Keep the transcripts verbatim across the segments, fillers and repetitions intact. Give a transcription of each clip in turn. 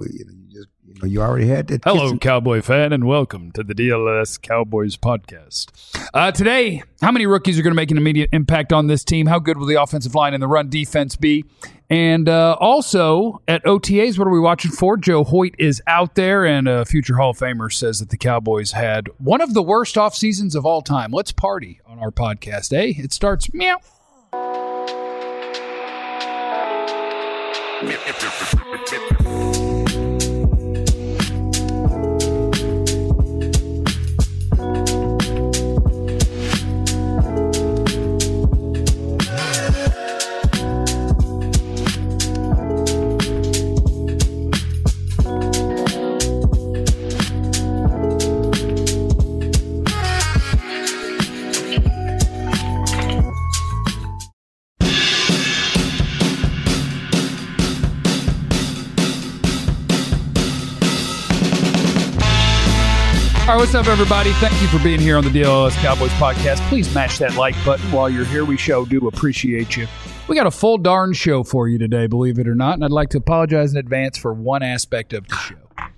We, you, know, you just you know you already had that. Hello, kissing. Cowboy fan, and welcome to the D L S Cowboys podcast. Uh, today, how many rookies are going to make an immediate impact on this team? How good will the offensive line and the run defense be? And uh, also, at O T As, what are we watching for? Joe Hoyt is out there, and a future Hall of Famer says that the Cowboys had one of the worst off seasons of all time. Let's party on our podcast, eh? It starts meow. All right, what's up, everybody? Thank you for being here on the D L S Cowboys podcast. Please smash that like button while you're here. We sure do appreciate you. We got a full darn show for you today, believe it or not, and I'd like to apologize in advance for one aspect of the show.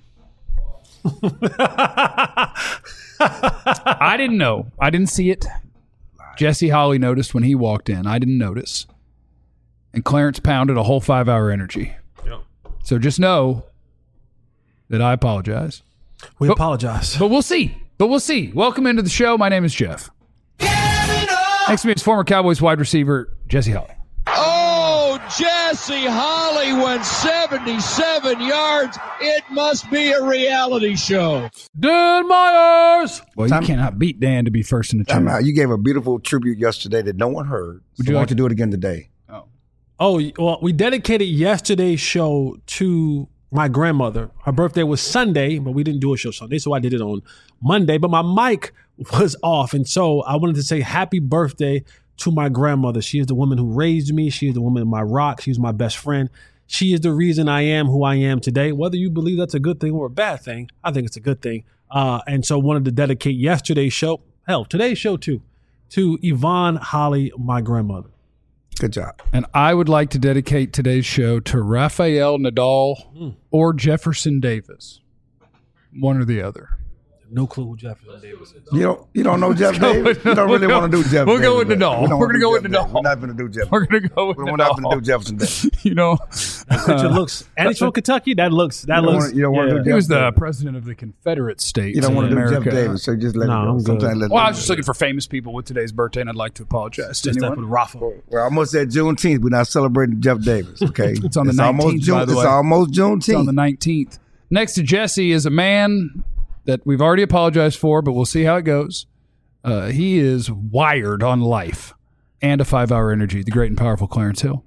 I didn't know. I didn't see it. Jesse Holley noticed when he walked in. I didn't notice. And Clarence pounded a whole five-hour energy. Yep. So just know that I apologize. We but, apologize. But we'll see. But we'll see. Welcome into the show. My name is Jeff. Next to me is former Cowboys wide receiver, Jesse Holley. Oh, Jesse Holley went seventy-seven yards. It must be a reality show. Dan Myers. Well, you cannot beat Dan to be first in the Time chart. out. You gave a beautiful tribute yesterday that no one heard. Would so you why like don't you do it again today? Oh. Oh, well, we dedicated yesterday's show to my grandmother. Her birthday was Sunday, but we didn't do a show Sunday, so I did it on Monday. But my mic was off, and so I wanted to say happy birthday to my grandmother. She is the woman who raised me. She is the woman in my rock. She's my best friend. She is the reason I am who I am today. Whether you believe that's a good thing or a bad thing, I think it's a good thing. Uh, and so wanted to dedicate yesterday's show, hell, today's show too, to Yvonne Holley, my grandmother. Good job. And I would like to dedicate today's show to Rafael Nadal Mm. or Jefferson Davis. One or the other. No clue who Jefferson Davis is. You don't you don't know Jeff go Davis? with- You don't we'll really go- want to do Jeff we'll Davis. go with right? Nadal. We don't We're wanna gonna do go with Jeff Davis. Nadal. We're not going to do Jeff We're Davis. going to go with We're not going to Nadal. do Jefferson Davis. You know, That picture looks, and he's from Kentucky. That looks, that You don't looks. wanna- you don't wanna yeah. do he was Jeff the Davis. president of the Confederate States You don't in want to do America. Jeff Davis, so just let No, it I'm go. good. Sometimes let it Well, I go. was just looking for famous people with today's birthday, and I'd like to apologize to Just that anyone. with Rafa. We're almost at Juneteenth. We're not celebrating Jeff Davis, okay? It's on the almost nineteenth, June, by the It's way. almost It's on Juneteenth. the nineteenth. Next to Jesse is a man that we've already apologized for, but we'll see how it goes. Uh, he is wired on life and a five-hour energy. The great and powerful Clarence Hill.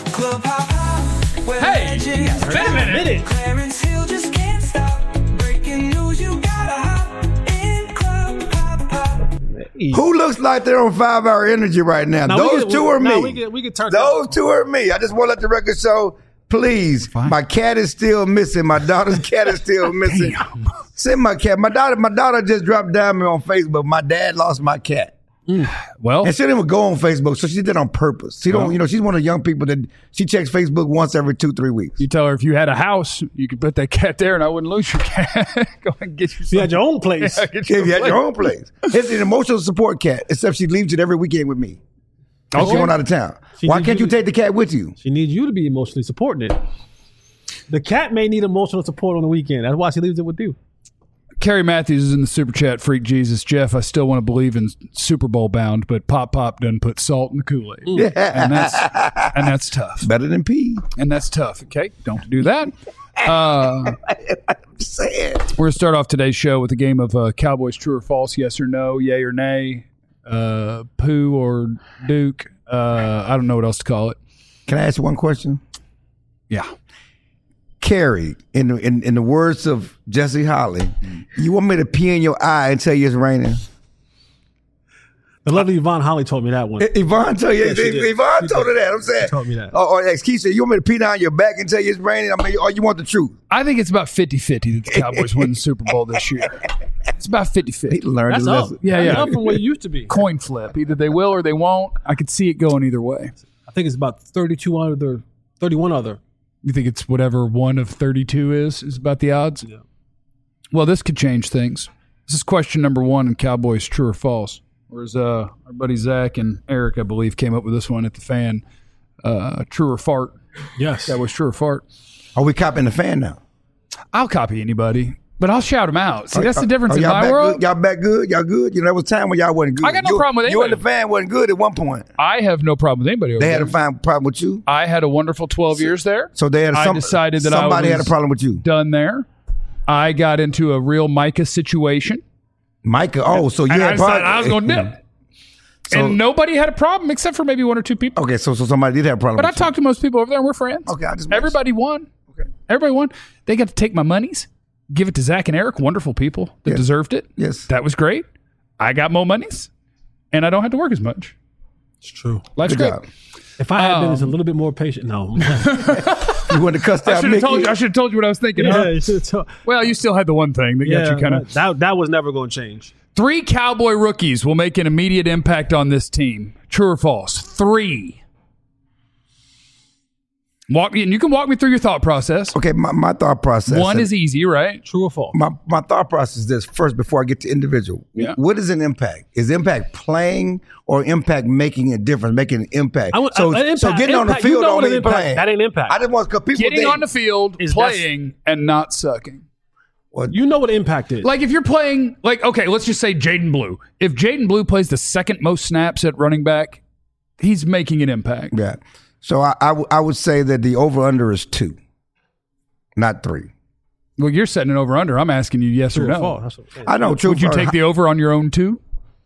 Hey, Minute. Clarence Hill just can't stop. Breaking news, you gotta hop in Club Pop Pop. Who looks like they're on five-hour energy right now? Now, we Those get- two we- are me. now, we get- we get turned Those up. two are me. I just want to let the record show, please, Fine. my cat is still missing. My daughter's cat is still missing. Send my cat. My daughter, my daughter just dropped down me on Facebook. My dad lost my cat. Well, And she didn't even go on Facebook, so she did it on purpose. She don't, Well. you know, she's one of the young people that she checks Facebook once every two, three weeks. you tell her if you had a house, you could put that cat there, and I wouldn't lose your cat. Go and get you. You had your own place. Yeah, get If you had place. your own place. It's an emotional support cat, except she leaves it every weekend with me. And she Okay. went out of town. She Why did can't you you- take the cat with you? She needs you to be emotionally supporting it. The cat may need emotional support on the weekend. That's why she leaves it with you. Kerry Matthews is in the super chat. Freak Jesus, Jeff. I still want to believe in Super Bowl bound, but Pop Pop doesn't put salt in the Kool Aid, and that's and that's tough. Better than pee. And that's tough. Okay, don't do that. Uh, I'm saying. we're gonna start off today's show with a game of uh, Cowboys true or false, yes or no, yay or nay, uh, poo or Duke. Uh, I don't know what else to call it. Can I ask you one question? Yeah. Carrie, in the, in, in the words of Jesse Holley, you want me to pee in your eye and tell you it's raining? The lovely Yvonne Holley told me that one. I- Yvonne told you. Yeah, she did. Yvonne She told her did. that. I'm saying. She told me that. Or, or ex Keisha, you want me to pee down your back and tell you it's raining? I mean, or you want the truth? I think it's about fifty-fifty that the Cowboys win the Super Bowl this year. It's about He fifty-fifty. learned That's a up. lesson. Yeah, That's yeah. up from what it used to be. Coin flip. Either they will or they won't. I could see it going either way. I think it's about thirty-two other, thirty-one other You think it's whatever one of thirty-two is, is about the odds? Yeah. Well, this could change things. This is question number one in Cowboys True or False. Whereas uh, our buddy Zach and Eric, I believe, came up with this one at the Fan. Uh, true or fart? Yes. That was true or fart. Are we copying the Fan now? I'll copy anybody, but I'll shout them out. See, that's the difference Oh, in y'all my back world. Good? Y'all back good? Y'all good? You know, there was a time when y'all wasn't good. I got no you, problem with You anybody. and the Fan wasn't good at one point. I have no problem with anybody over They had there. a fine problem with you. I had a wonderful twelve years there. So they had I some, decided that I somebody had a was- problem with you. Done there. I got into a real Micah situation. Micah, oh, so you And I had decided problem. I was going to dip. So- and nobody had a problem except for maybe one or two people. Okay, so so somebody did have a problem But I with you. talked to most people over there and we're friends. Okay, I just Everybody won. Okay. Everybody won. They got to take my monies, give it to Zach and Eric, wonderful people that Yes. deserved it. Yes. That was great. I got more monies and I don't have to work as much. It's true. Life's Good great. job. If I had been Um, just a little bit more patient, no. You wanted to cuss I out should have Mickey? told you. I should have told you what I was thinking. huh? you should have told. Well, you still had the one thing that Yeah, got you kind of. that that was never going to change. Three Cowboy rookies will make an immediate impact on this team. True or false? Three. Walk me, and you can walk me through your thought process. Okay, my, my thought process. One is easy, right? True or false? my, my thought process is this first before I get to individual. Yeah. What is an impact? Is impact playing or impact making a difference, making an impact? I would- so, uh, an impact- so getting on the impact, you field know don't what an mean impact- playing. that ain't impact. I just want because people Getting think, on the field, Is playing, and not sucking. well, You know what impact is. Like if you're playing, like okay, let's just say Jaden Blue. If Jaden Blue plays the second most snaps at running back, he's making an impact. yeah. So I, I, w- I would say that the over under is two, not three. Well, you're setting an over under. I'm asking you yes True or or no. false? That's what I'm saying. I know. True. Would you for- take the over on your own too?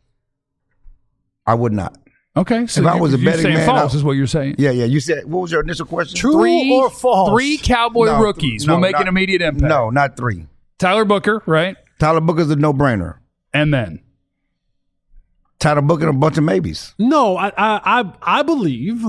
I would not. Okay, so If I you- was a you're betting saying man, false I- is what you're saying. Yeah, yeah. You said what was your initial question? True Three or false? Three Cowboy No, rookies no, will make not- an immediate impact. No, not three. Tyler Booker, right? Tyler Booker's a no brainer. And then Tyler Booker and a bunch of maybes. No, I, I, I, I believe.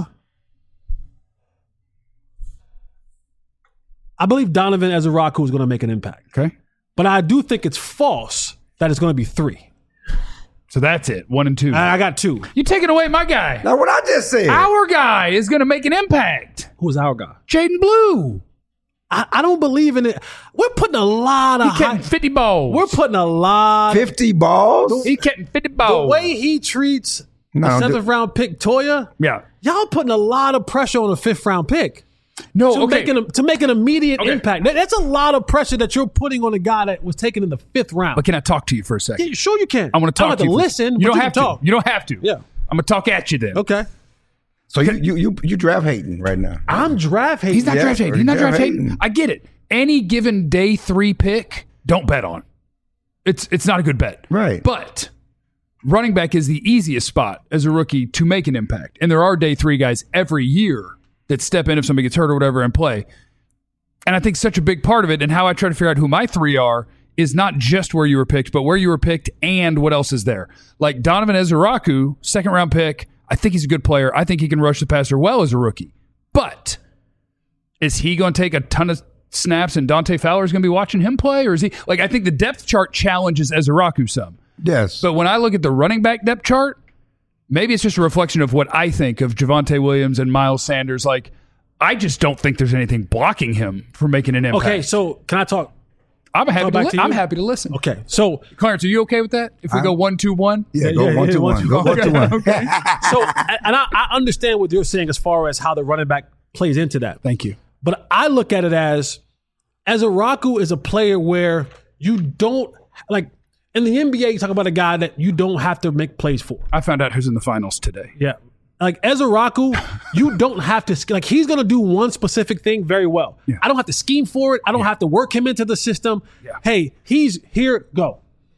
I believe Donovan Ezeraku is going to make an impact, okay, but I do think it's false that it's going to be three. so that's it. One and two. I, I got two. You're taking away my guy. Now what I just said. Our guy is going to make an impact. Who's our guy? Jaden Blue. I, I don't believe in it. We're putting a lot of He getting high, fifty balls. we're putting a lot. Fifty balls. He getting fifty The balls. way he treats No, a th- seventh round pick Toya, yeah. y'all putting a lot of pressure on a fifth round pick. No. to okay. make an, to make an immediate Okay. impact. That- that's a lot of pressure that you're putting on a guy that was taken in the fifth round. But can I talk to you for a second? Yeah, sure you can. I want to I talk don't to have you. to for- listen. You but don't you have can to. talk. You don't have to. Yeah. I'm gonna talk at you then. Okay. So you, you you you draft hating right now. I'm draft hating. He's not Yeah, draft hating. or He's not draft draft hating. hating. I get it. Any given day three pick, don't bet on. It's it's not a good bet. Right. But running back is the easiest spot as a rookie to make an impact. And there are day three guys every year that step in if somebody gets hurt or whatever and play. And I think such a big part of it and how I try to figure out who my three are is not just where you were picked, but where you were picked and what else is there. Like Donovan Ezeraku, second round pick. I think he's a good player. I think he can rush the passer well as a rookie. But is he going to take a ton of snaps and Dante Fowler is going to be watching him play? Or is he like, I think the depth chart challenges Ezeraku some. Yes. But when I look at the running back depth chart, maybe it's just a reflection of what I think of Javonte Williams and Miles Sanders. Like, I just don't think there's anything blocking him from making an impact. Okay, so can I talk? I'm happy. To back li- to you? I'm happy to listen. Okay, so Clarence, are you okay with that? If we go one, two, one, yeah, yeah, go yeah, one yeah, to one, one. two, Go one. one to one. okay. so and I, I understand what you're saying as far as how the running back plays into that. Thank you. But I look at it as as Ezeraku is a player where you don't like in the N B A. You talk about a guy that you don't have to make plays for. I found out who's in the finals today. Yeah. Like Ezeraku, you don't have to like he's gonna do one specific thing very well. Yeah. I don't have to scheme for it. I don't have to work him into the system. Yeah. Hey, he's here, go.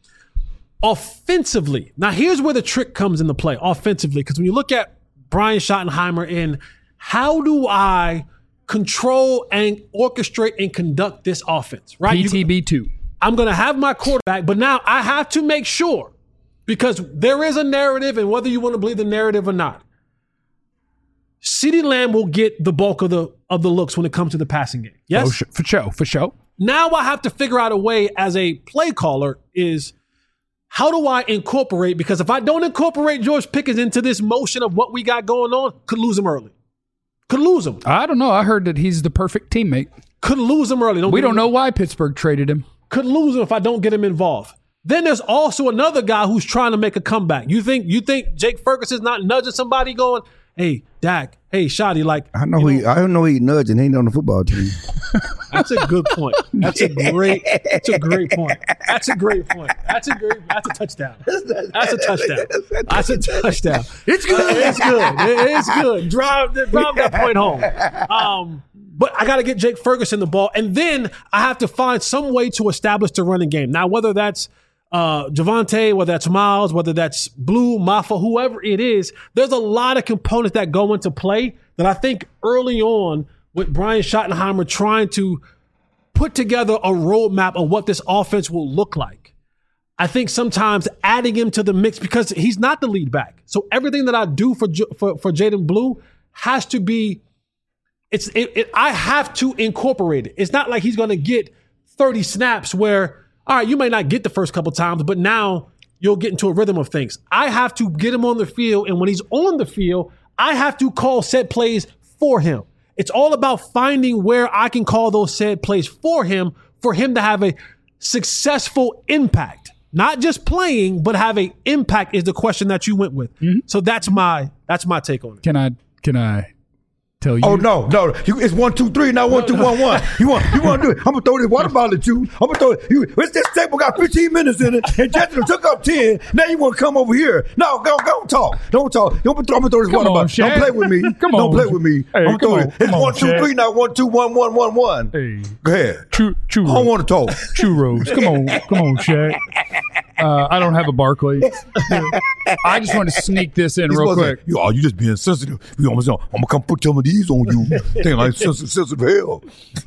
Offensively, now here's where the trick comes into play. Offensively, because when you look at Brian Schottenheimer in how do I control and orchestrate and conduct this offense, right? P You- T B two. I'm going to have my quarterback, but now I have to make sure because there is a narrative, and whether you want to believe the narrative or not, CeeDee Lamb will get the bulk of the of the looks when it comes to the passing game. Yes. Oh, sh- for show, for show. Now I have to figure out a way as a play caller is how do I incorporate? Because if I don't incorporate George Pickens into this motion of what we got going on, could lose him early. Could lose him. I don't know. I heard that he's the perfect teammate. Could lose him early. Don't We get don't me- know why Pittsburgh traded him. Could lose him if I don't get him involved. Then there's also another guy who's trying to make a comeback. You think you think Jake Ferguson's not nudging somebody going, hey, Dak, hey, Shotty, like, I know you he. I don't know he nudging. He ain't on the football team. that's a good point. That's a great, that's a great point. That's a great point. That's a great, that's a touchdown. That's a touchdown. That's a touchdown. It's good. It's good. It- It's good. Drive, drive that point home. Um, but I got to get Jake Ferguson the ball. And then I have to find some way to establish the running game. Now, whether that's uh, Javonte, whether that's Miles, whether that's Blue, Maffa, whoever it is, there's a lot of components that go into play that I think early on with Brian Schottenheimer trying to put together a roadmap of what this offense will look like. I think sometimes adding him to the mix because he's not the lead back. So everything that I do for J- for, for Jaden Blue has to be, it's it, it, I have to incorporate it. It's not like he's going to get thirty snaps where, all right, you may not get the first couple times, but now you'll get into a rhythm of things. I have to get him on the field, and when he's on the field, I have to call set plays for him. It's all about finding where I can call those set plays for him, for him to have a successful impact. Not just playing, but have an impact is the question that you went with. Mm-hmm. So that's my that's my take on it. Can I can I tell you? Oh no, no! You, it's one, two, three, not one, two, one, one. You want, you want to do it? I'm gonna throw this water bottle at you. I'm gonna throw it. You, it's this table got fifteen minutes in it, and Jessica took up ten. Now you want to come over here? No, go, don't talk, don't talk. Don't throw, I'm gonna throw this Come water on, bottle. Shaq. Don't play with me. Come don't on. play with me. Hey, I'm gonna come throw on, it. It's come on, one, two, Shaq. three, not one, two, one, one, one, one. Hey. Go ahead. Chu- churros. I don't want to talk. Churros. Come on, come on, Shaq. Uh, I don't have a Barclays. I just want to sneak this in He's real supposed to quick. say, "Yo, you just being sensitive. You almost know. I'm gonna come put some of these on you. Think like sensitive, sensitive hell."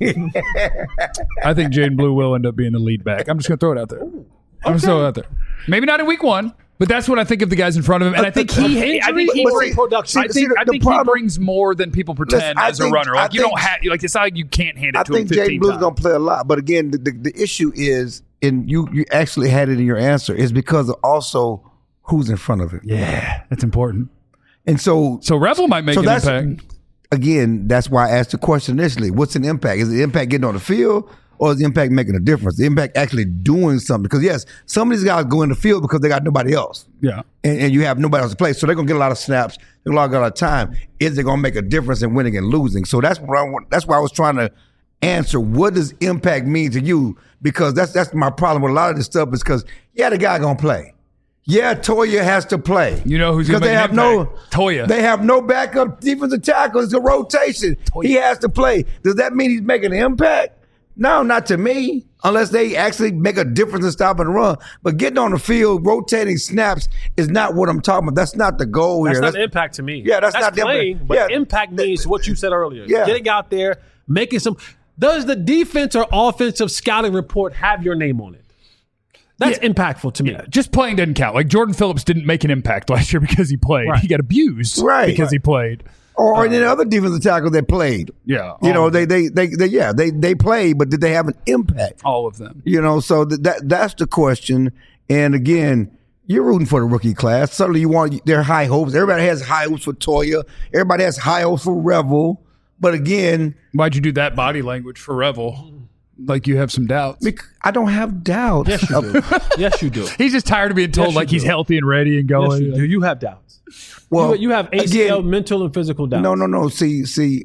I think Jaden Blue will end up being the lead back. I'm just going to throw it out there. I'm just throw it out there. Maybe not in week one, but that's what I think of the guys in front of him. And I think he, I think he, But brings, see- production. I see, think, the- I the think he problem- brings more than people pretend Listen, I as a think- runner. I Like you think- don't have, like it's not like you can't hand it I to him think Jaden fifteen Blue's times. gonna play a lot, but again, the, the, the issue is, and you you actually had it in your answer, is because of also who's in front of him. Yeah, that's important. And so, So Revel might make so an that's impact. again, that's why I asked the question initially: what's an impact? Is the impact getting on the field, or is the impact making a difference? The impact actually doing something? Because yes, some of these guys go in the field because they got nobody else. Yeah. And, and you have nobody else to play, so they're gonna get a lot of snaps, they're gonna get a lot of time. Is it gonna make a difference in winning and losing? So that's what I want. That's why I was trying to answer. What does impact mean to you? Because that's that's my problem with a lot of this stuff. Is because yeah, the guy gonna play. Yeah, Toya has to play. You know who's because gonna they make have an no impact? Toya. They have no backup defensive tackle. It's a rotation. He has to play. Does that mean he's making an impact? No, not to me. Unless they actually make a difference in stopping the run. But getting on the field, rotating snaps is not what I'm talking about. That's not the goal That's here. not the impact to me. Yeah, that's not the playing, impact. but Yeah. impact means what you said earlier. Yeah. Getting out there, making some. Does the defense or offensive scouting report have your name on it? That's Yeah. impactful to me. Yeah, just playing doesn't count. Like Jordan Phillips didn't make an impact last year because he played. Right. He got abused Right. because Right. he played. Or, or any other defensive tackle that played. Yeah, You all know, of they, they, they, they, yeah, they, they played, but did they have an impact? All of them. You know, so that, that that's the question. And again, you're rooting for the rookie class. Certainly, you want their high hopes. Everybody has high hopes for Toya. Everybody has high hopes for Revel. But again, Why'd you do that body language for Revel? Like you have some doubts. bec- I don't have doubts. Yes, you do. Yes, you do. He's just tired of being told Yes, you like he's do. healthy and ready and Yes, going. you do. You have doubts. Well, you, you have A C L, again, mental and physical doubts. No, no, no. See, see,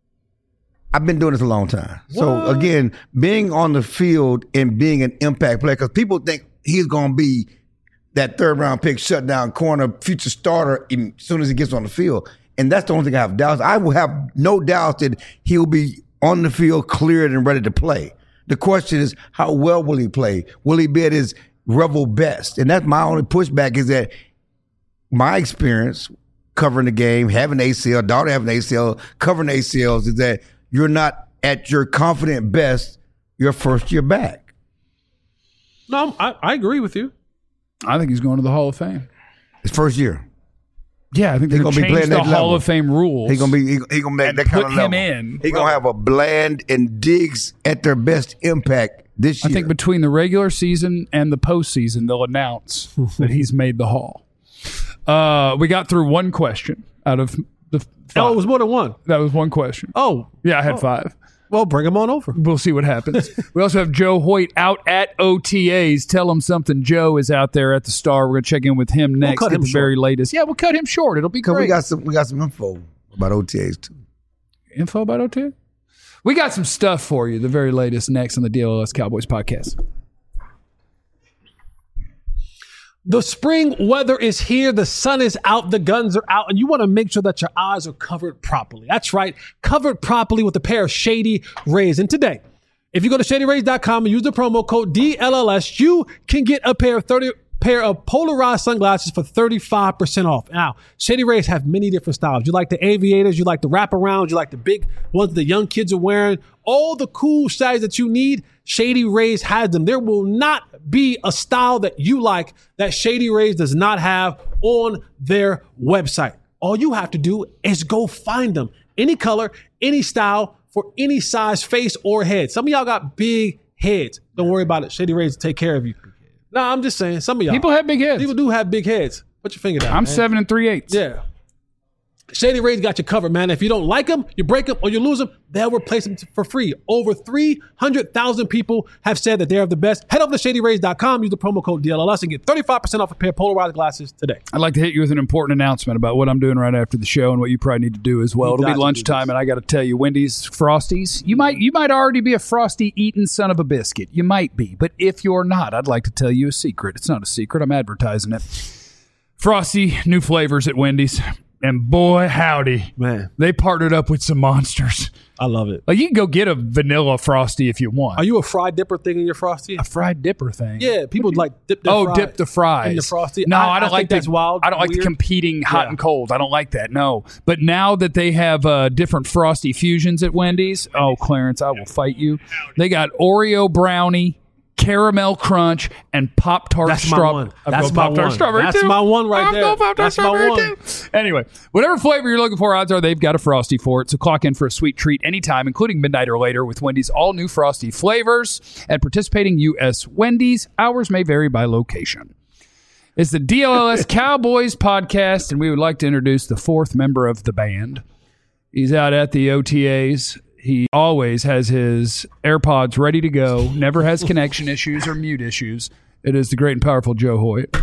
I've been doing this a long time. So What? again, being on the field and being an impact player, because people think he's going to be that third round pick, shutdown corner, future starter as soon as he gets on the field. And that's the only thing I have doubts. I will have no doubt that he'll be on the field, cleared and ready to play. The question is, how well will he play? Will he be at his Revel best? And that's my only pushback is that my experience covering the game, having A C L, daughter having A C L, covering A C Ls is that you're not at your confident best your first year back. No, I, I agree with you. I think he's going to the Hall of Fame. His first year. Yeah, I think they're He going gonna to be change playing the that Hall level. of Fame rules. He gonna be he, he gonna make And that kind put of him level. in. He gonna have a Bland and Diggs at their best impact this I year. think between the regular season and the postseason, they'll announce that he's made the Hall. Uh, we got through one question out of the Oh, it was more than one. That was one question. Oh, Yeah, I had Oh. five. well, bring him on over. We'll see what happens. We also have Joe Hoyt out at O T As. Tell him something. Joe is out there at the Star. We're going to check in with him next. cut Get him the short. very latest. Yeah, we'll cut him short. It'll be Cause great. we got some we got some info about O T As too. Info about O T A? We got some stuff for you. The very latest next on the D L L S Cowboys podcast. The spring weather is here. The sun is out. The guns are out. And you want to make sure that your eyes are covered properly. That's right. Covered properly with a pair of Shady Rays. And today, if you go to shady rays dot com and use the promo code D L L S, you can get a pair of thirty pair of polarized sunglasses for thirty-five percent off. Now, Shady Rays have many different styles. You like the aviators, you like the wraparounds, you like the big ones the young kids are wearing. All the cool styles that you need, Shady Rays has them. There will not be a style that you like that Shady Rays does not have on their website. All you have to do is go find them. Any color, any style, for any size, face, or head. Some of y'all got big heads. Don't worry about it. Shady Rays will take care of you. No, I'm just saying. Some of y'all. People have big heads. People do have big heads. Put your finger down. I'm man. seven and three eighths. Yeah. Shady Rays got you covered, man. If you don't like them, you break them, or you lose them, they'll replace them for free. Over three hundred thousand people have said that they're the best. Head over to shady rays dot com, use the promo code D L L S, and get thirty-five percent off a pair of polarized glasses today. I'd like to hit you with an important announcement about what I'm doing right after the show and what you probably need to do as well. You It'll got be to do lunchtime, this. and I got to tell you, Wendy's Frosties. You might you might already be a Frosty eating son of a biscuit. You might be, but if you're not, I'd like to tell you a secret. It's not a secret. I'm advertising it. Frosty, new flavors at Wendy's, and boy, howdy, Man, they partnered up with some monsters. I love it. Like you can go get a vanilla Frosty if you want. Are you a fried dipper thing in your Frosty? a fried dipper thing? Yeah, people like dip their Oh, fry dip the fries in the Frosty. No, I, I, don't I like think the, that's wild. I don't like the weird. competing hot Yeah. and cold. I don't like that. No, but now that they have uh, different Frosty fusions at Wendy's, oh, Clarence, I will fight you. They got Oreo brownie, caramel crunch, and Pop Tart That's my strawberry. one. That's my one. Strawberry That's too. my one right I'm there. going Pop-Tart That's my strawberry one. too. Anyway, whatever flavor you're looking for, odds are they've got a Frosty for it. So clock in for a sweet treat anytime, including midnight or later, with Wendy's all new Frosty flavors at participating U S Wendy's. Hours may vary by location. It's the D L L S Cowboys podcast, and we would like to introduce the fourth member of the band. He's out at the O T As. He always has his AirPods ready to go, never has connection issues or mute issues. It is the great and powerful Joe Hoyt.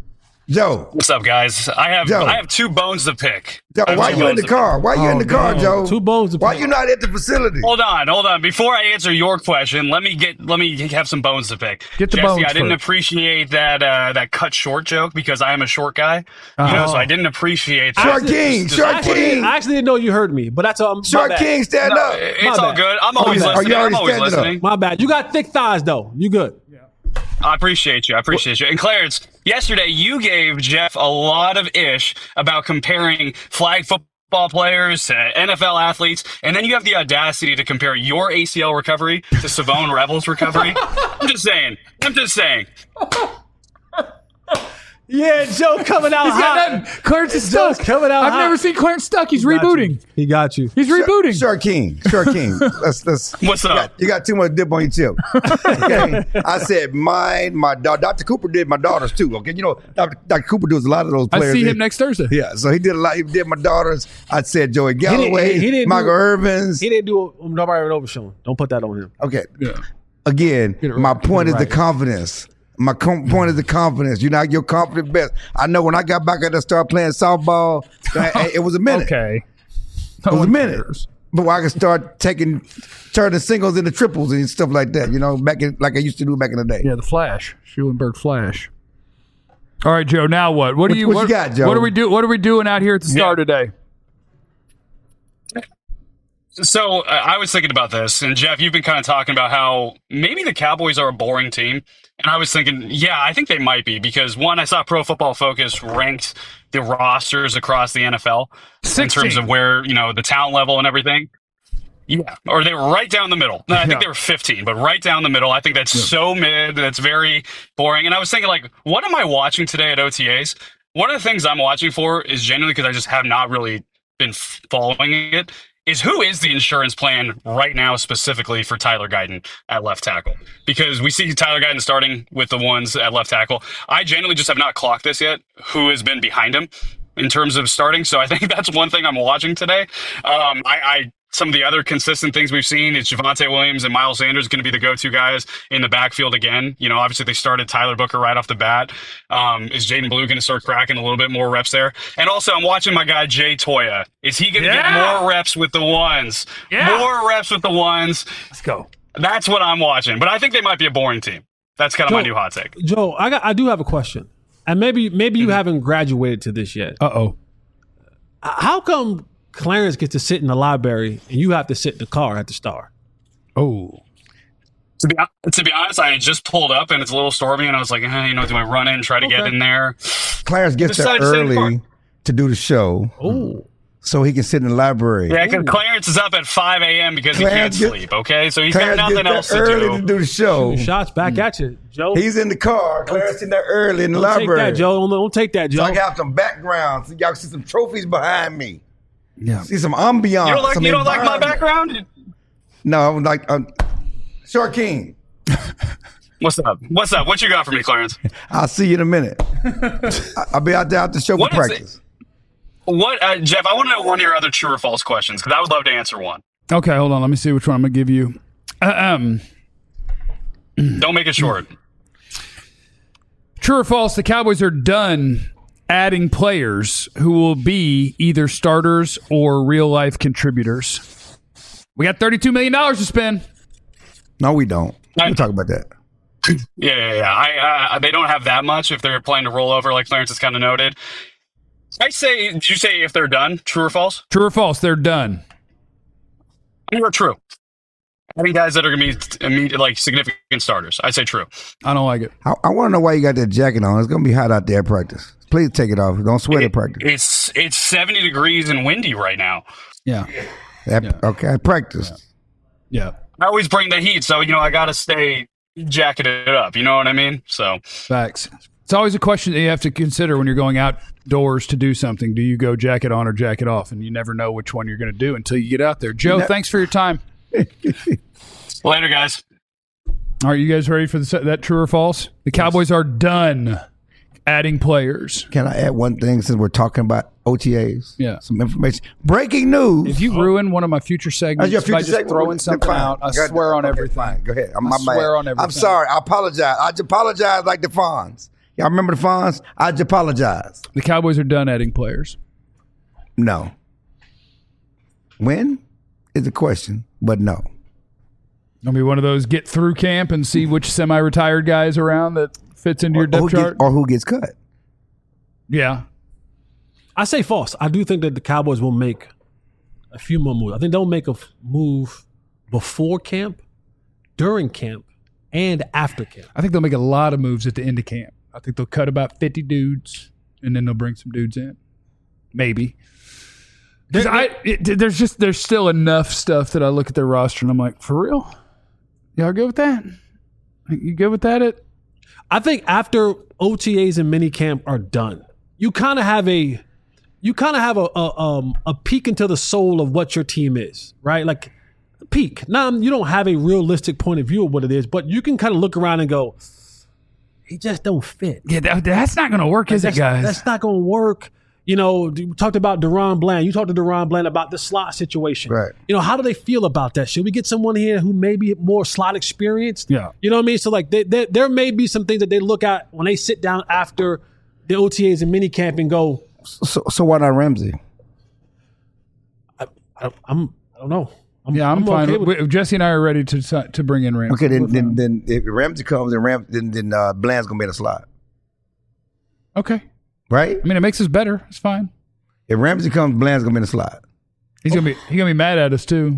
Joe, What's up, guys? I have Joe. I have two bones to pick. Joe, I have why two you in bones the to car? Why you in Oh, the car, damn. Joe? Two bones to Why pick. you not at the facility? pick. Hold on, hold on. Before I answer your question, let me get let me have some bones to pick. Get the Jesse, bones I didn't first. appreciate that uh, that cut short joke because I am a short guy. You know, so I didn't appreciate that. Short King, Just- Short Actually, King. I actually didn't know you heard me, but that's um, my Short bad. King, stand No, up. it's My all bad. good. I'm Oh, always you- are listening. you already I'm always standing up? listening. My bad. You got thick thighs though. You good? I appreciate you. I appreciate you. And Clarence, yesterday you gave Jeff a lot of ish about comparing flag football players to N F L athletes, and then you have the audacity to compare your A C L recovery to Savone Rebels' recovery. I'm just saying. I'm just saying. Yeah, Joe coming out He's got hot. nothing. Clarence is Joe's stuck. coming out I've hot. never seen Clarence stuck. He's Got rebooting. you. He got you. He's rebooting. Short King, Short King. Let's let's. What's You up? got, you got too much dip on your chip. Okay, I said mine. My daughter, Doctor Cooper did my daughters too. Okay, you know Doctor Doctor Cooper does a lot of those I players. see He- him next Thursday. Yeah, so he did a lot. He did my daughters. I said Joey didn't- Galloway, he didn't Michael do- Irvins. He didn't do a nobody over showing. Don't put that on him. Okay, Yeah. again, it right. my Get point it is the right. confidence. My com- point is the confidence. You're not your confident best. I know when I got back and start playing softball, it it was a minute. Okay. It was a one minute. cares. But I could start taking, turning singles into triples and stuff like that. You know, back in like I used to do back in the day. Yeah, the Flash, Schulenberg Flash. All right, Joe. Now what? What do What- you? what you got, Joe? What are we do? What are we doing out here at the Star Yeah. today? So uh, I was thinking about this, and Jeff, you've been kind of talking about how maybe the Cowboys are a boring team. And I was thinking, yeah, I think they might be because one, I saw Pro Football Focus ranked the rosters across the N F L in sixteen. terms of where, you know, the talent level and everything. Yeah. Or they were right down the middle. No, I think Yeah. they were fifteen, but right down the middle. I think that's so mid. That's very boring. And I was thinking, like, what am I watching today at O T As? One of the things I'm watching for is genuinely because I just have not really been f- following it. Is who is the insurance plan right now specifically for Tyler Guyton at left tackle? Because we see Tyler Guyton starting with the ones at left tackle. I genuinely just have not clocked this yet. Who has been behind him? in terms of starting. So I think that's one thing I'm watching today. Um, I, I some of the other consistent things we've seen is Javonte Williams and Miles Sanders going to be the go-to guys in the backfield again. You know, obviously they started Tyler Booker right off the bat. Um, is Jaden Blue going to start cracking a little bit more reps there? And also I'm watching my guy Jay Toya. Is he going to Yeah. get more reps with the ones? Yeah. More reps with the ones. Let's go. That's what I'm watching. But I think they might be a boring team. That's kind of my Joe- new hot take. Joe, I got I do have a question, and maybe maybe you haven't graduated to this yet. Uh oh. How come Clarence gets to sit in the library and you have to sit in the car at the Star? Oh. To be, to be honest, I had just pulled up and it's a little stormy, and I was like, eh, you know, do I run in, try to get Okay. in there? Clarence gets there Decided to stay in the early to do the show, Oh, so he can sit in the library. Yeah, because Clarence is up at five a.m. because Clarence he can't get- sleep, okay? So he's Clarence got nothing gets else there to early do. to do the show. shots back at you, Joe. He's in the car. Clarence in there early in the don't take library. that, Joe. Don't, don't take that, So Joe. I have some background. So y'all can see some trophies behind me. Yeah. See some ambiance. You don't like, some you don't like my environment. background? No, I'm like um, Short King. What's up? What's up? What you got for me, Clarence? I'll see you in a minute. I- I'll be out there after the show What for is practice. What, uh, Jeff, I want to know one of your other true or false questions because I would love to answer one. Okay, hold on. Let me see which one I'm gonna give you. Uh, um, Don't make it short. true or false? The Cowboys are done adding players who will be either starters or real life contributors. We got thirty-two million dollars to spend. No, we don't. I- We'll talk about that. Yeah, yeah, yeah. I, uh, they don't have that much if they're planning to roll over, like Clarence has kind of noted. I say, did you say if they're done? True or false? True or false? They're done. You're true. I think guys that are going to be immediate, like significant starters. I say true. I don't like it. I, I want to know why you got that jacket on. It's going to be hot out there at practice. Please take it off. Don't sweat at practice. It's it's seventy degrees and windy right now. Yeah. At- Okay, at practice. Yeah. I always bring the heat, so you know I got to stay jacketed up. You know what I mean? So Facts. It's always a question that you have to consider when you're going outdoors to do something. Do you go jacket on or jacket off? And you never know which one you're going to do until you get out there. Joe, Ne- thanks for your time. later, guys. Are you guys ready for the, that true or false? The Cowboys are done adding players. Can I add one thing since we're talking about O T As? Yeah. Some information. Breaking news. If you ruin one of my future segments That's your by future just segment. throwing something Fine. out, I Go ahead. swear on Okay, everything. Fine. Go ahead. I'm, I my swear bad. on everything. I'm sorry. I apologize. I just apologize like the Fonz. Y'all remember the Fonz? I just apologize. The Cowboys are done adding players. No. When is the question, but no. Gonna be one of those get through camp and see which semi-retired guy is around that fits into your Or depth who, chart. gets, or who gets cut. Yeah. I say false. I do think that the Cowboys will make a few more moves. I think they'll make a f- move before camp, during camp, and after camp. I think they'll make a lot of moves at the end of camp. I think they'll cut about fifty dudes, and then they'll bring some dudes in. Maybe. 'Cause I, it, there's just there's still enough stuff that I look at their roster and I'm like, for real? Y'all good with that? You good with that? It I think after O T As and minicamp are done, you kind of have a you kind of have a, a um a peek into the soul of what your team is, right? Like a peek. Now you don't have a realistic point of view of what it is, but you can kind of look around and go, he just don't fit. yeah, that, that's not going to work, is it, that's, guys? That's not going to work. You know, we talked about Deron Bland. You talked to Deron Bland about the slot situation. Right. You know, how do they feel about that? Should we get someone here who may be more slot experienced? Yeah. You know what I mean? So, like, they, they, there may be some things that they look at when they sit down after the O T As and minicamp and go, So, so why not Ramsey? I, I'm, I don't know. I'm, yeah, I'm, fine. okay with, with- Jesse and I are ready to si- to bring in Ramsey. Okay, then We're then, fine. then if Ramsey comes, then Ram, then then uh, Bland's gonna be in the slot, Okay. right? I mean, it makes us better. It's fine. If Ramsey comes, Bland's gonna be in the slot. He's gonna be he's gonna be mad at us too.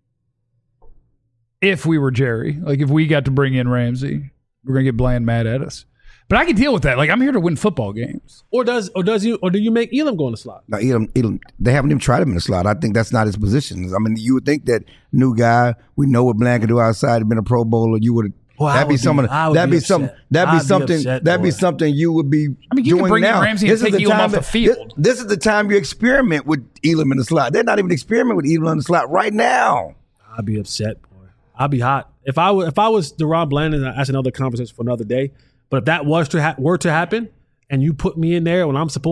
If we were Jerry, like if we got to bring in Ramsey, we're gonna get Bland mad at us. But I can deal with that. Like I'm here to win football games. or does or does you or do you make Elam go in the slot? Now, Elam, Elam, they haven't even tried him in the slot. I think that's not his position. I mean, you would think that new guy, we know what Bland can do outside, had been a Pro Bowler. You would Boy, I that'd be would some be- of the- I would that'd be be some upset. that'd be I'd be something upset, that'd be boy. something you would be I mean, you can doing bring in now. Ramsey and This is take the Elam time off the that- field. This, this is the time you experiment with Elam in the slot. They're not even experimenting with Elam in the slot right now. I'd be upset, boy. I'd be hot if I was if I was Deron Bland, and that's another conversation for another day. But if that was to ha- were to happen, and you put me in there when I'm supposed to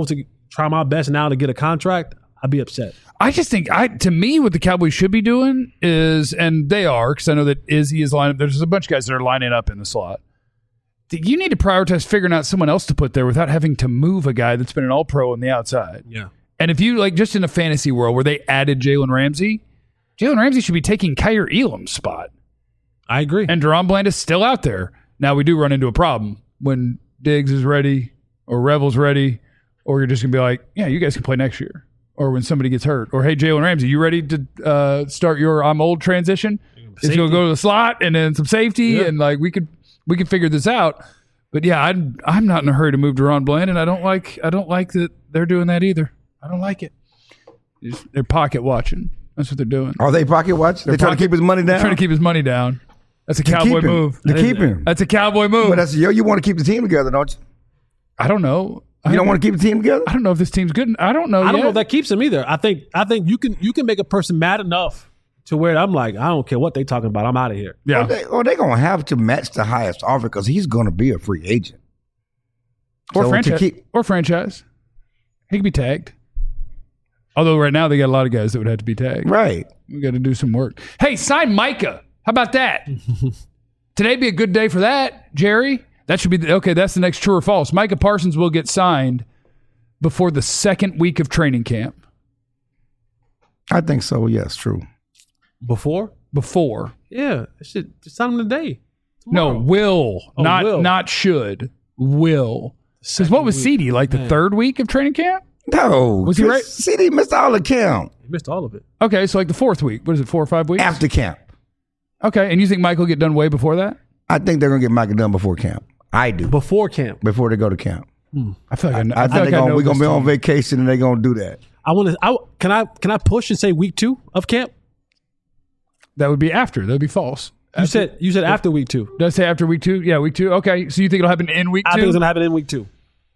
try my best now to get a contract, I'd be upset. I just think, I to me, what the Cowboys should be doing is, and they are, because I know that Izzy is lining up. There's a bunch of guys that are lining up in the slot. You need to prioritize figuring out someone else to put there without having to move a guy that's been an all-pro on the outside. Yeah. And if you, like, just in a fantasy world where they added Jalen Ramsey, Jalen Ramsey should be taking Kyer Elam's spot. I agree. And Deron Bland is still out there. Now, we do run into a problem when Diggs is ready or Revel's ready, or you're just going to be like, yeah, you guys can play next year. Or when somebody gets hurt. Or, hey, Jalen Ramsey, you ready to uh, start your I'm old transition? It's going to go to the slot and then some safety, Yeah. and, like, we could we could figure this out. But, yeah, I'm, I'm not in a hurry to move Deron Bland, and I don't like I don't like that they're doing that either. I don't like it. Just, they're pocket watching. That's what they're doing. Are they pocket watch? They're, trying pocket- to keep his money They're down. trying to keep his money down. That's a To Cowboy keep him. move. To keep him. That's a Cowboy move. But that's yo. You want to keep the team together, don't you? I don't know. You don't want to keep the team together. I don't know if this team's good. I don't know. I don't yet. know if that keeps him either. I think I think you can you can make a person mad enough to where I'm like, I don't care what they talking about. I'm out of here. Yeah. Or they, or they gonna have to match the highest offer because he's gonna be a free agent. Or So to franchise. keep- or franchise. He could be tagged. Although right now they got a lot of guys that would have to be tagged. Right. We got to do some work. Hey, sign Micah. How about that? Today be a good day for that, Jerry. That should be the, okay. That's the next true or false. Micah Parsons will get signed before the second week of training camp. I think so. Yes, true. Before? Before. Yeah. Shit, just sign him today. No, Tomorrow. will. Oh, not will. not should. Will. Because what was week. C D? Like the Man. third week of training camp? No. Was he right? C D missed all the camp He missed all of it. Okay, so like the fourth week. What is it, four or five weeks? after camp. Okay, and you think Michael will get done way before that? I think they're gonna get Micah done before camp. I do. Before camp. Before they go to camp. I feel like I, know, I, I, feel think like they're I gonna, know we're gonna this be on team. vacation and they're gonna do that. I want to. I can I can I push and say week two of camp? That would be after. That would be false. You said you said after week two. Did I say after week two? Yeah, week two. Okay, so you think it'll happen in week I two? think it's gonna happen in week two.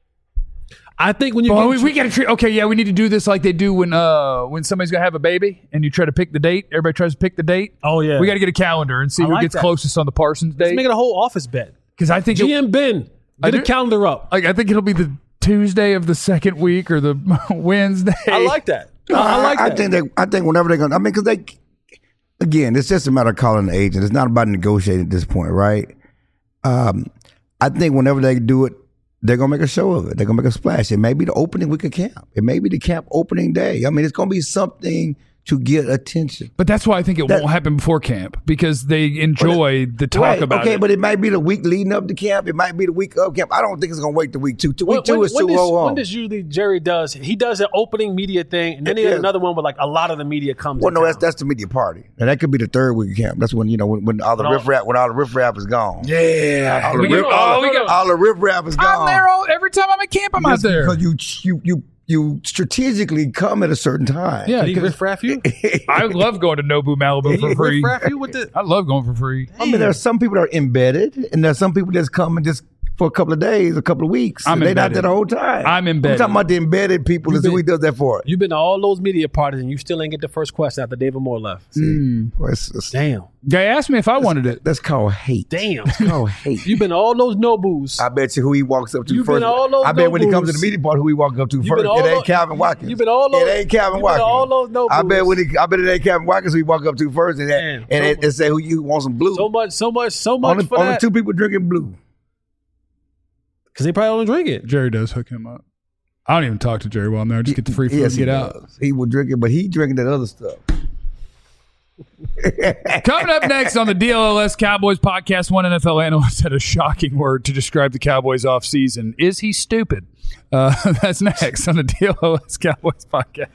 I think when you Well, get we, we got to treat. Okay, yeah, we need to do this like they do when uh when somebody's gonna have a baby and you try to pick the date. Everybody tries to pick the date. Oh, yeah. we got to get a calendar and see I who like gets that. closest on the Parsons let's date. make it a whole office bet. Because I think it, G M Ben, I get a do- calendar up. like I think it'll be the Tuesday of the second week or the Wednesday. I like that. No, I like I that. think they. I think whenever they're gonna. I mean, because they. Again, it's just a matter of calling the agent. It's not about negotiating at this point, right? Um, I think whenever they do it, they're gonna make a show of it. They're gonna make a splash. It may be the opening week of camp. It may be the camp opening day. I mean, it's gonna be something to get attention. But that's why I think it That- won't happen before camp because they enjoy the talk Right, about okay, it. but it might be the week leading up to camp. It might be the week of camp. I don't think it's gonna wait the week two. Week When- two when- is when too does, low when on. does usually Jerry does he does an opening media thing and then he has Yeah. another one where like a lot of the media comes. Well, in no, town. that's that's the media party, and that could be the third week of camp. That's when you know when, when all the When all- riff rap when all the riff rap is gone. yeah, all the we riff, go- all, oh, we go. all the riff rap is gone. I'm there all every time I'm at camp. I'm out Just there. because you you you you strategically come at a certain time. Yeah, Did he 'cause riff raff you? I love going to Nobu Malibu for free. Riff raff you with the I love going for free. I mean, there are some people that are embedded, and there's some people that's coming just for a couple of days, a couple of weeks. I'm and they're not embedded. there the whole time. I'm embedded. I'm talking about the embedded people. You've Is who been- he does that for. You've been to all those media parties and you still ain't get the first question after David Moore left. Well, it's- it's- Damn. Guy asked me if I wanted it. That's called hate. Damn. That's called hate. You've been to all those Nobus. I bet you who he walks up to You've first. been all those I bet when he comes to Nobus. the media part, who he walks up to You've first. been all It ain't those- Calvin Watkins. you've been all those- It ain't Calvin you've been Watkins. all those Nobus. I bet when he, I bet it ain't Calvin Watkins who he walk up to first, and Damn, and, so and, much- and say who you want some blue. So much, so much, so much only for only that. two people drinking blue. Because they probably don't drink it. Jerry does hook him up. I don't even talk to Jerry while I'm there. I just get the free food Yes, and he get out. does. He will drink it, but he drinking that other stuff. Coming up next on the D L L S Cowboys podcast, one N F L analyst had a shocking word to describe the Cowboys offseason. Is he stupid? Uh, that's next on the D L L S Cowboys podcast.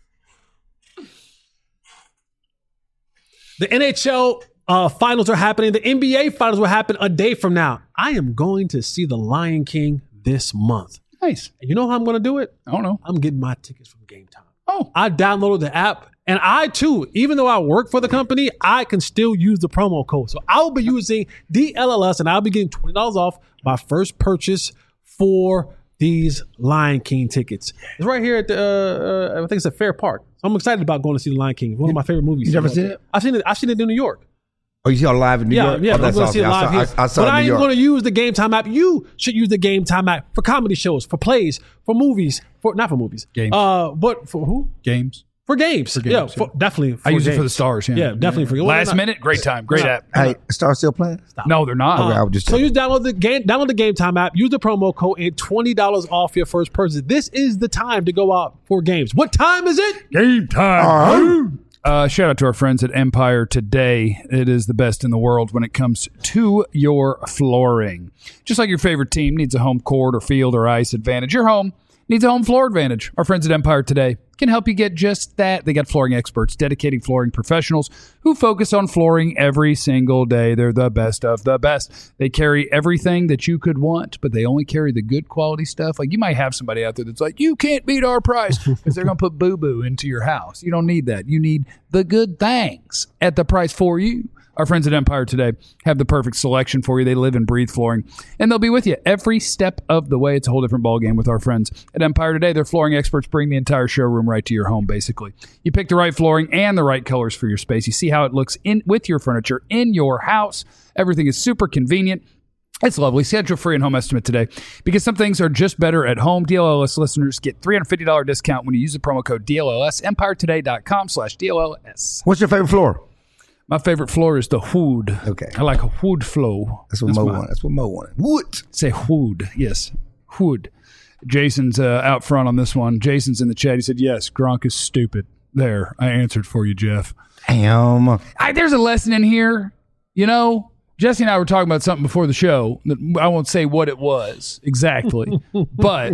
The N H L uh, finals are happening. The N B A finals will happen a day from now. I am going to see The Lion King this month. Nice. And you know how I'm going to do it? I don't know. I'm getting my tickets from Game Time. Oh, I downloaded the app, and I too, even though I work for the company, I can still use the promo code. So I'll be using D L L S, and I'll be getting twenty dollars off my first purchase for these Lion King tickets. It's right here at the, uh, uh, I think it's at Fair Park. So I'm excited about going to see The Lion King. One of my favorite movies. You never seen it? I've seen it. I've seen it in New York. Oh, you see how live in New Yeah, York? yeah, Oh, I'm that's going to see it awesome. live I here. saw, I, I saw but it I in New ain't York. going to use the Game Time app. You should use the Game Time app for comedy shows, for plays, for movies, for not for movies. Games. Uh, but for who? Games. For games. games, yeah, yeah. for, definitely. For I use games. it for the stars. Yeah, Yeah, definitely for well, Last they're not- minute, great time, great They're app. Hey, Star still playing? No, they're not. Okay, I was just So checking. you download the game, download the Game Time app, use the promo code, and twenty dollars off your first purchase. This is the time to go out for games. What time is it? Game time. Uh, shout out to our friends at Empire Today. It is the best in the world when it comes to your flooring. Just like your favorite team needs a home court or field or ice advantage, your home needs a home floor advantage. Our friends at Empire Today can help you get just that. They got flooring experts, dedicated flooring professionals who focus on flooring every single day. They're the best of the best. They carry everything that you could want, but they only carry the good quality stuff. Like you might have somebody out there that's like, you can't beat our price because they're going to put boo-boo into your house. You don't need that. You need the good things at the price for you. Our friends at Empire Today have the perfect selection for you. They live and breathe flooring, and they'll be with you every step of the way. It's a whole different ballgame with our friends at Empire Today. Their flooring experts bring the entire showroom right to your home, basically. You pick the right flooring and the right colors for your space. You see how it looks in with your furniture in your house. Everything is super convenient. It's lovely. Schedule free and home estimate today because some things are just better at home. D L L S listeners get three hundred fifty dollars discount when you use the promo code D L L S, empire today dot com slash D L L S. What's your favorite floor? My favorite floor is the wood. Okay. I like a wood floor. That's what Mo my- wanted. That's what Mo wanted. Wood. Say wood. Yes. Wood. Jason's uh, out front on this one. Jason's in the chat. He said, yes, Gronk is stupid. There. I answered for you, Jeff. Damn. I, there's a lesson in here. You know, Jesse and I were talking about something before the show. I won't say what it was exactly, but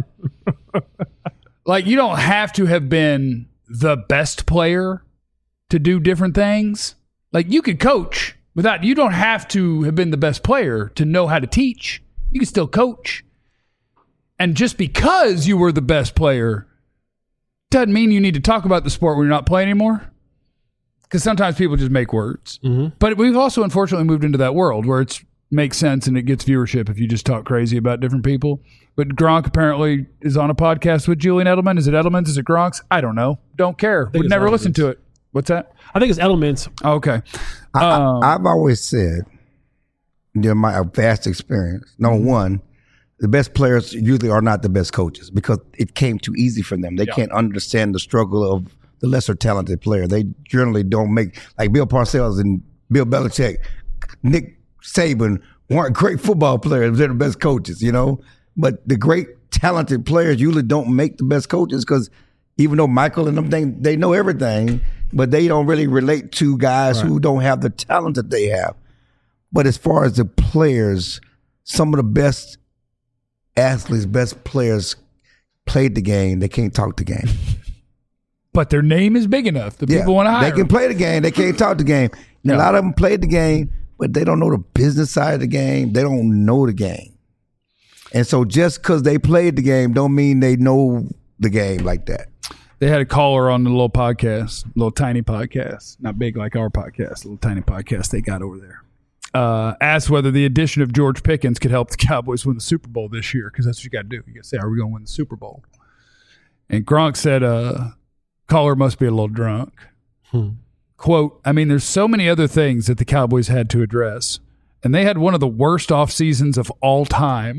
like you don't have to have been the best player to do different things. Like you could coach without, you don't have to have been the best player to know how to teach. You can still coach. And just because you were the best player doesn't mean you need to talk about the sport when you're not playing anymore. Because sometimes people just make words. Mm-hmm. But we've also unfortunately moved into that world where it makes sense and it gets viewership if you just talk crazy about different people. But Gronk apparently is on a podcast with Julian Edelman. Is it Edelman's? Is it Gronk's? I don't know. Don't care. Would it's never listen Edelman's. to it. What's that? I think it's Elements. Okay. I, Um, I, I've always said, during my vast experience, number one, the best players usually are not the best coaches because it came too easy for them. They Yeah. can't understand the struggle of the lesser talented player. They generally don't make, like Bill Parcells and Bill Belichick, Nick Saban weren't great football players. They're the best coaches, you know? But the great talented players usually don't make the best coaches because even though Michael and them, they, they know everything, but they don't really relate to guys who don't have the talent that they have. But as far as the players, some of the best athletes, best players played the game. They can't talk the game. but their name is big enough that people want to hire They can them. play the game. They can't talk the game. And Yeah. a lot of them played the game, but they don't know the business side of the game. They don't know the game. And so just because they played the game don't mean they know the game like that. They had a caller on the little podcast, little tiny podcast, not big like our podcast, little tiny podcast they got over there. Uh, asked whether the addition of George Pickens could help the Cowboys win the Super Bowl this year, because that's what you got to do. You got to say, are we going to win the Super Bowl? And Gronk said, uh, caller must be a little drunk. Hmm. Quote, I mean, there's so many other things that the Cowboys had to address, and they had one of the worst off seasons of all time.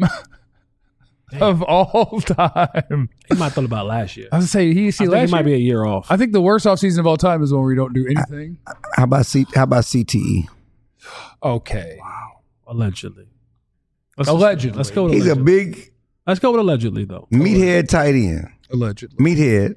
of all time. He might have thought about last year. I was going to say, he, see, I think last he might year, be a year off. I think the worst offseason of all time is when we don't do anything. How about C, how about C T E? Okay. Allegedly. Let's Allegedly. Let's go with He's a allegedly. big Let's go with allegedly, though. meathead tight end. Allegedly. Meathead.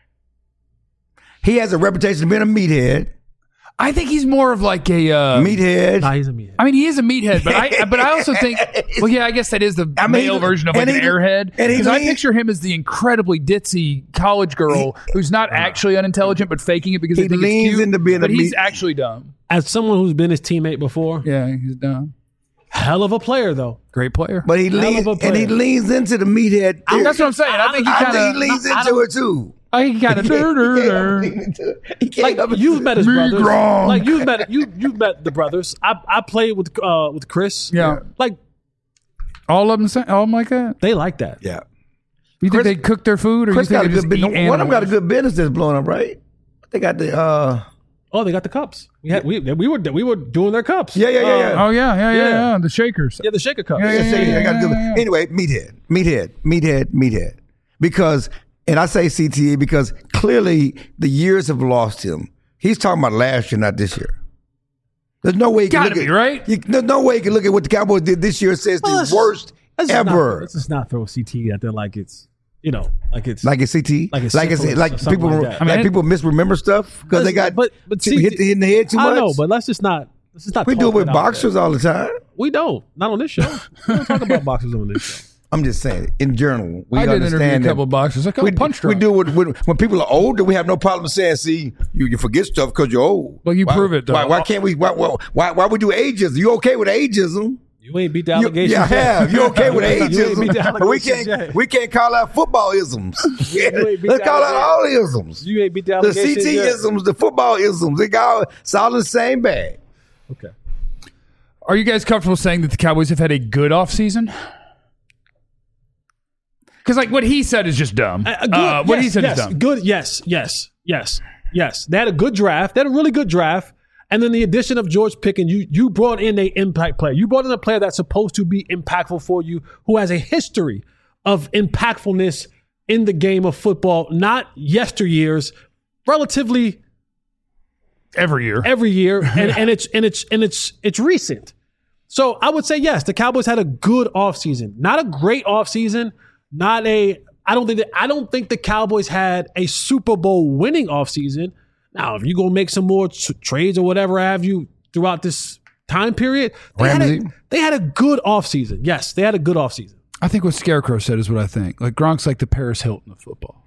He has a reputation of being a meathead. I think he's more of like a uh, Meathead. Nah, he's a meathead. I mean, he is a meathead, but I but I also think, well, yeah, I guess that is the I mean, male version of like and an he- airhead. and he Because I lean- picture him as the incredibly ditzy college girl who's not actually unintelligent but faking it because He they think leans it's cute. into being a but he's meat- actually dumb. As someone who's been his teammate before, Yeah, he's dumb. hell of a player, though. Great player. But he Hell leans of a and he player. leans into the meathead. I- that's what I'm saying. I think he I kind think he of. leans I into don't- it too. I think he kind of. He can't lean into it. He can't Like help it. you've met his Me brothers. Gronk. Like you've met you you've met the brothers. I I played with uh with Chris. Yeah. Like All of them, say, all of them like that. they like that. Yeah. You think Chris- they cook their food, or Chris you think got a they just good eat business. One of them got a animals? good business that's blowing up, right? They got the uh Oh, they got the cups. We had we we were we were doing their cups. Yeah, yeah, yeah, yeah. Oh yeah, yeah, yeah, Yeah. yeah. The shakers. Yeah, the shaker cups. Yeah, yeah, Yeah, yeah, I gotta do yeah, it. yeah. Anyway, meathead, meathead, meathead, meathead. Because, and I say C T E because clearly the years have lost him. He's talking about last year, not this year. There's no way he can Gotta look be, at, right? You, there's no way he can look at what the Cowboys did this year and say it's Well, the let's- worst Let's just not- ever. let's just not throw C T out there like it's you know like it's Like it's C T E, Like it's like it's syphilis like or something people, like that. I mean, like people misremember stuff because they got but but people C T hit, hit in the head too much. I know, but let's just not let's just not. we do talk it with that out boxers there. all the time. We don't. Not on this show. We don't talk about boxers on this show. I'm just saying, in general, we I did interview understand a that couple of boxers. Like, oh, we, punch we drunk. do it when, when people are older. We have no problem saying, "See, you, you forget stuff because you're old." Well, you why, prove it, though. Why, why can't we? Why, why, why, why we do ageism? You okay with ageism? You ain't beat the You, allegations. yeah, I yet. have. You okay with You ain't beat ageism? the But we allegations can't. yet. We can't call out football isms. ain't beat Let's the call out all allegations. the isms. You ain't beat the The C allegations. T yet. isms, the football isms. They got it's all in the same bag. Okay. Are you guys comfortable saying that the Cowboys have had a good offseason? Because like what he said is just dumb. A- a good- uh, what yes, he said yes, is dumb. Good. Yes. Yes. Yes. Yes. They had a good draft. They had a really good draft. And then the addition of George Pickens, you you brought in a impact player. You brought in a player that's supposed to be impactful for you, who has a history of impactfulness in the game of football, not yesteryears, relatively Every year. every year, and, and it's and it's and it's it's recent. So I would say yes, the Cowboys had a good offseason. Not a great offseason, not a I don't think that I don't think the Cowboys had a Super Bowl winning offseason. Now, if you're gonna make some more t- trades or whatever have you throughout this time period, they had, a, Ramsey? they had a good offseason. Yes, they had a good offseason. I think what Scarecrow said is what I think. Like Gronk's like the Paris Hilton of football.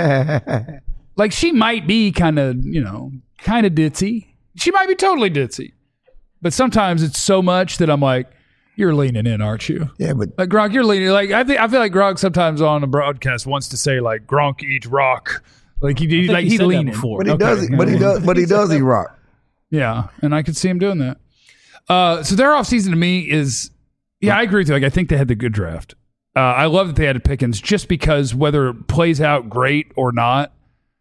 Like she might be kind of, you know, kind of ditzy. She might be totally ditzy. But sometimes it's so much that I'm like, you're leaning in, aren't you? Yeah, but Like Gronk, you're leaning. Like I think I feel like Gronk sometimes on a broadcast wants to say like Gronk eats rock. Like he, he think like he he's said that leaning. before. but he Okay. does. But he does. But he does. He rock. Yeah, and I could see him doing that. Uh, so their offseason to me is, yeah, I agree with you. Like I think they had the good draft. Uh, I love that they had Pickens just because whether it plays out great or not,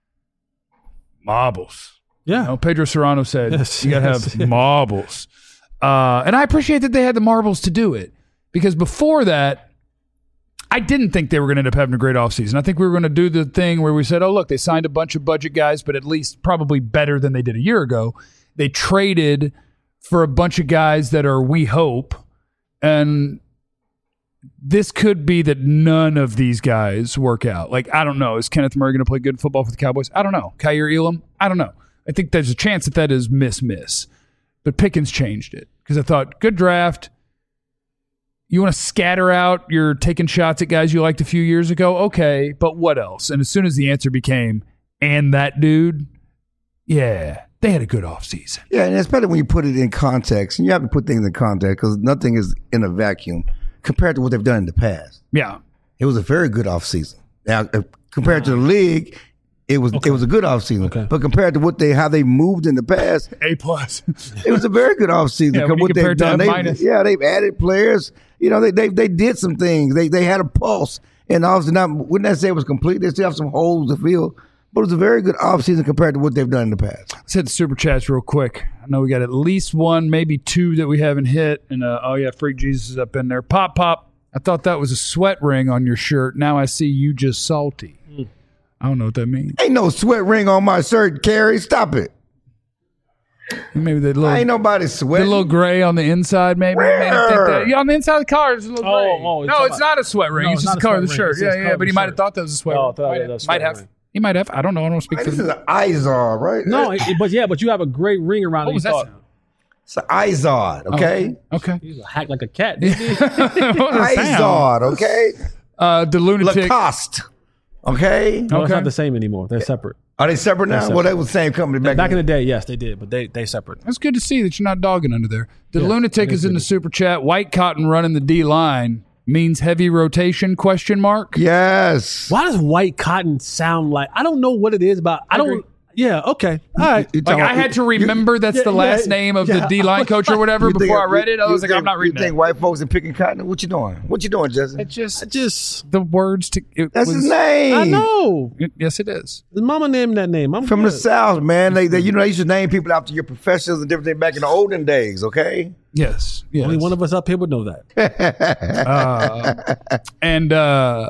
marbles. Yeah. You know, Pedro Serrano said Yes, you got to yes, have yes. marbles. Uh, and I appreciate that they had the marbles to do it because before that, I didn't think they were going to end up having a great offseason. I think we were going to do the thing where we said, oh, look, they signed a bunch of budget guys, but at least probably better than they did a year ago. They traded for a bunch of guys that are, we hope, and this could be that none of these guys work out. Like, I don't know. Is Kenneth Murray going to play good football for the Cowboys? I don't know. Kyer Elam? I don't know. I think there's a chance that that is miss-miss. But Pickens changed it because I thought, good draft. You want to scatter out your taking shots at guys you liked a few years ago? Okay, but what else? And as soon as the answer became, and that dude, yeah, they had a good offseason. Yeah, and especially when you put it in context, and you have to put things in context because nothing is in a vacuum compared to what they've done in the past. Yeah. It was a very good offseason. Now, uh, compared to the league, it was it was a good offseason. Okay. But compared to what they how they moved in the past, A plus. it was a very good offseason. Yeah, when you what compare they've it to done, F they, minus. yeah, they've added players. You know, they they they did some things. They they had a pulse, and obviously not wouldn't that say it was complete? They still have some holes to fill. But it was a very good offseason compared to what they've done in the past. Let's hit the super chats real quick. I know we got at least one, maybe two that we haven't hit. And uh, oh yeah, Freak Jesus is up in there. Pop Pop. I thought that was a sweat ring on your shirt. Now I see you just salty. Mm. I don't know what that means. Ain't no sweat ring on my shirt, Carrie. Stop it. Maybe the little, Ain't nobody the sweating. little gray on the inside. Maybe. Made him think Where? that. Yeah, on the inside of the car, there's a little Oh, gray. oh, you're no, talking it's about- not a sweat ring. No, it's it's just not the a color of the sweat shirt. ring. It Yeah, says yeah. color But he of the might have shirt. thought that was a sweat Oh, I ring. thought Might it have. was a Might sweat have. ring. He might have. I don't know. I don't speak for This is the. an Izod, right? No, it, it- but yeah, but you have a great ring around What it. was You that thought- sound? It's an Izod, okay? Okay. He's a hack like a cat. Didn't he? What was that sound? Izod, okay? Uh, the lunatic. Lacoste, okay? No, it's Okay. not the same anymore. They're separate. Are they separate now? separate. Well, they were the same company back, Back in the day, yes, they did, but they they separate. That's good to see that you're not dogging under there. The Yeah, lunatic it is is in the good. super chat. White cotton running the D line means heavy rotation? Question mark. Yes. Why does white cotton sound like? I don't know what it is about. I I don't. agree. Yeah, okay. All right. You Like talking- I had to remember that's yeah, the last yeah, name of yeah. the D line coach or whatever you think- before I read you- it. I you was like, think- I'm not reading You think that. white folks are picking cotton? What you doing? What you doing, Justin? It just I just, the words to it That's was, his name. I know. Yes, it is. His mama named that name. I'm From the good. South, man. They, they, you know, they used to name people after your professions and different things back in the olden days. Okay. Yes, yes. Only one of us up here would know that. Uh, and uh,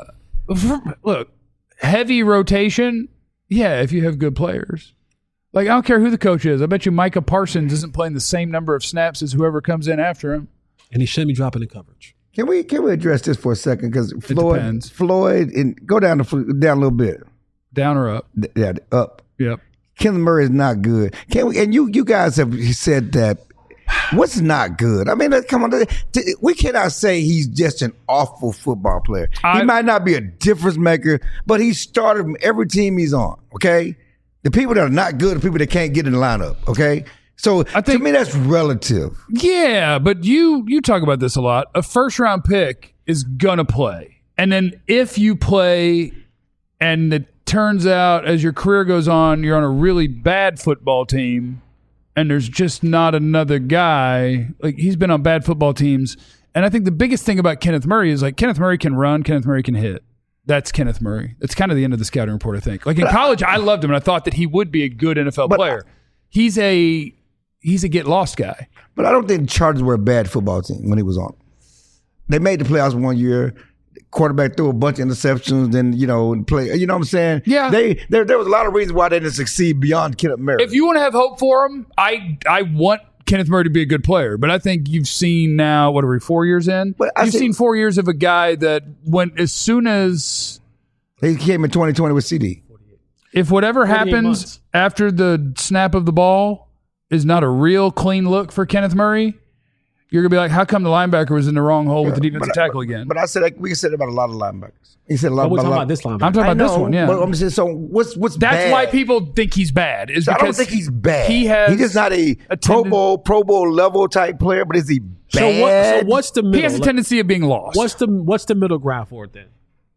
look, heavy rotation. Yeah, if you have good players. Like, I don't care who the coach is. I bet you Micah Parsons isn't playing the same number of snaps as whoever comes in after him. And he shouldn't be dropping the coverage. Can we can we address this for a second? Because Floyd, depends. Floyd, and go down the down a little bit. Down or up? Yeah, up. Yep. Kenneth Murray is not good. Can we? And you you guys have said that. What's not good? I mean, let's- come on. We cannot say he's just an awful football player. I- he might not be a difference maker, but he started from every team he's on. Okay, the people that are not good are people that can't get in the lineup. Okay, so I think- to me that's relative. Yeah, but you you talk about this a lot. A first round pick is gonna play, and then if you play, and it turns out as your career goes on, you're on a really bad football team, and there's just not another guy. Like he's been on bad football teams, and I think the biggest thing about Kenneth Murray is like Kenneth Murray can run, Kenneth Murray can hit. That's Kenneth Murray. That's kind of the end of the scouting report, I think. Like in college, I loved him, and I thought that he would be a good N F L But- player. He's a he's a get lost guy. But I don't think the Chargers were a bad football team when he was on. They made the playoffs one year. Quarterback threw a bunch of interceptions, then you know, and play. You know what I'm saying? Yeah. They there there was a lot of reasons why they didn't succeed beyond Kenneth Murray. If you want to have hope for him, I I want Kenneth Murray to be a good player, but I think you've seen now what are we four years in? But I You've think- seen four years of a guy that when as soon as He came in twenty twenty with C D. if whatever forty-eight happens months. after the snap of the ball is not a real clean look for Kenneth Murray, you're gonna be like, how come the linebacker was in the wrong hole with the defensive But- tackle again? But I said like, we can say that about a lot of linebackers. He said a lot But we're about, talking a lot. about this linebacker. I'm talking I about this know, one, yeah. But I'm just saying. So what's what's That's bad? why people think he's bad. Is I because don't think he's bad. He has He's just not a, a Pro tenden- Bowl Pro Bowl level type player. But is he bad? So what? So what's the middle? He has a Like, tendency of being lost. What's the what's the middle ground for it then?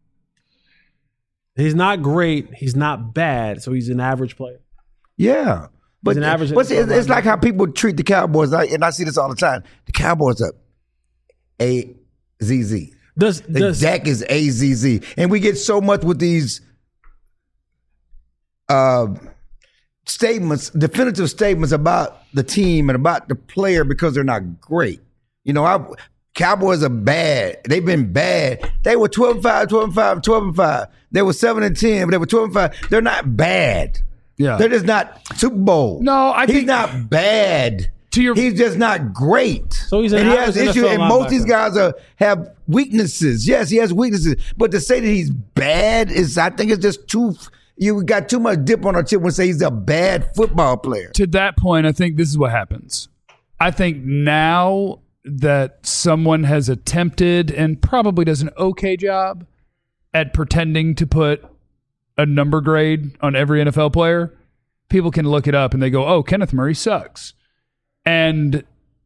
He's not great. He's not bad. So he's an average player. Yeah. But, an average but it's, it's like linebacker. how people treat the Cowboys, I, and I see this all the time. The Cowboys are A Z Z. Does The does Dak is A Z Z. And we get so much with these uh, statements, definitive statements about the team and about the player because they're not great. You know, I, Cowboys are bad. They've been bad. They were twelve and five, twelve and five, twelve and five. They were seven and ten, but they were twelve and five. They're not bad. Yeah. They're just not Super Bowl. No, I he's think- not bad. To your- he's just not great. So he's an and he has average issues, N F L and most of these linebacker. guys are have weaknesses. Yes, he has weaknesses, but to say that he's bad is, I think, it's just too. You got too much dip on our chip when say he's a bad football player. To that point, I think this is what happens. I think now that someone has attempted and probably does an okay job at pretending to put a number grade on every N F L player, people can look it up and they go, oh, Kenneth Murray sucks. And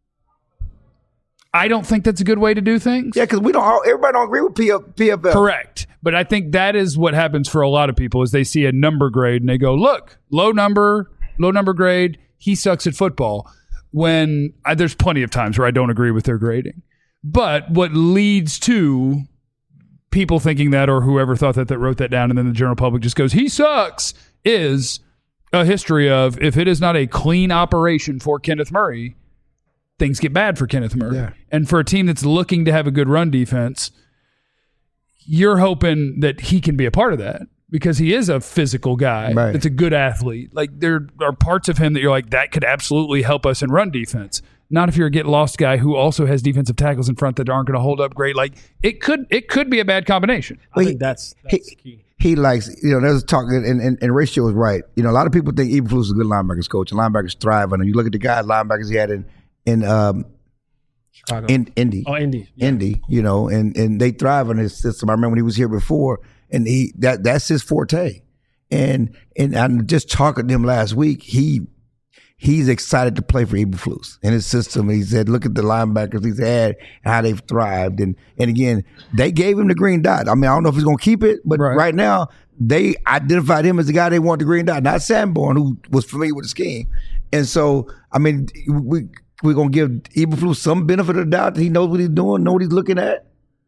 I don't think that's a good way to do things. Yeah, because we don't. all Everybody don't agree with P F, P F L. Correct. But I think that is what happens for a lot of people is they see a number grade and they go, look, low number, low number grade, he sucks at football. When I, there's plenty of times where I don't agree with their grading. But what leads to people thinking that or whoever thought that that wrote that down and then the general public just goes, he sucks, is a history of if it is not a clean operation for Kenneth Murray, things get bad for Kenneth Murray. Yeah. And for a team that's looking to have a good run defense, you're hoping that he can be a part of that because he is a physical guy. Right. That's a good athlete. Like there are parts of him that you're like, that could absolutely help us in run defense. Not if you're a get lost guy who also has defensive tackles in front that aren't going to hold up great. Like it could, it could be a bad combination. I think that's that's he, key. he likes, you know, there's talk, and, and, and Ratio is right. You know, a lot of people think Eberflus is a good linebackers coach, and linebackers thrive. And you look at the guys, linebackers he had in in um, Chicago. in Indy, oh, Indy. Yeah. Indy, you know, and and they thrive on his system. I remember when he was here before, and he that that's his forte. And and I'm just talking to him last week. He he's excited to play for Eberflus and his system. He said, look at the linebackers he's had, how they've thrived. And and again, they gave him the green dot. I mean, I don't know if he's going to keep it, but Right. right, now, they identified him as the guy they wanted the green dot, not Sanborn, who was familiar with the scheme. And so, I mean, we we're gonna give Eberflus some benefit of the doubt that he knows what he's doing, know what he's looking at.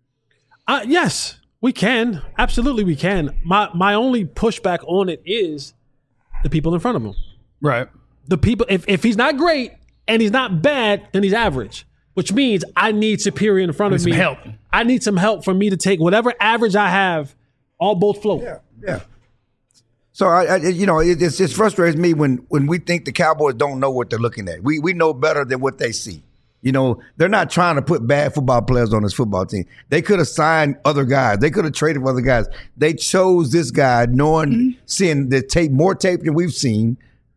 Uh, yes, we can. Absolutely, we can. My my only pushback on it is the people in front of him. Right. The people. If if he's not great and he's not bad, then he's average. Which means I need superior in front I of need me. some help. I need some help for me to take whatever average I have, all both float. Yeah, yeah. So I, I you know, it, it's, it frustrates me when when we think the Cowboys don't know what they're looking at. We we know better than what they see. You know, they're not trying to put bad football players on this football team. They could have signed other guys. They could have traded for other guys. They chose this guy, knowing, mm-hmm. seeing the tape, more tape than we've seen.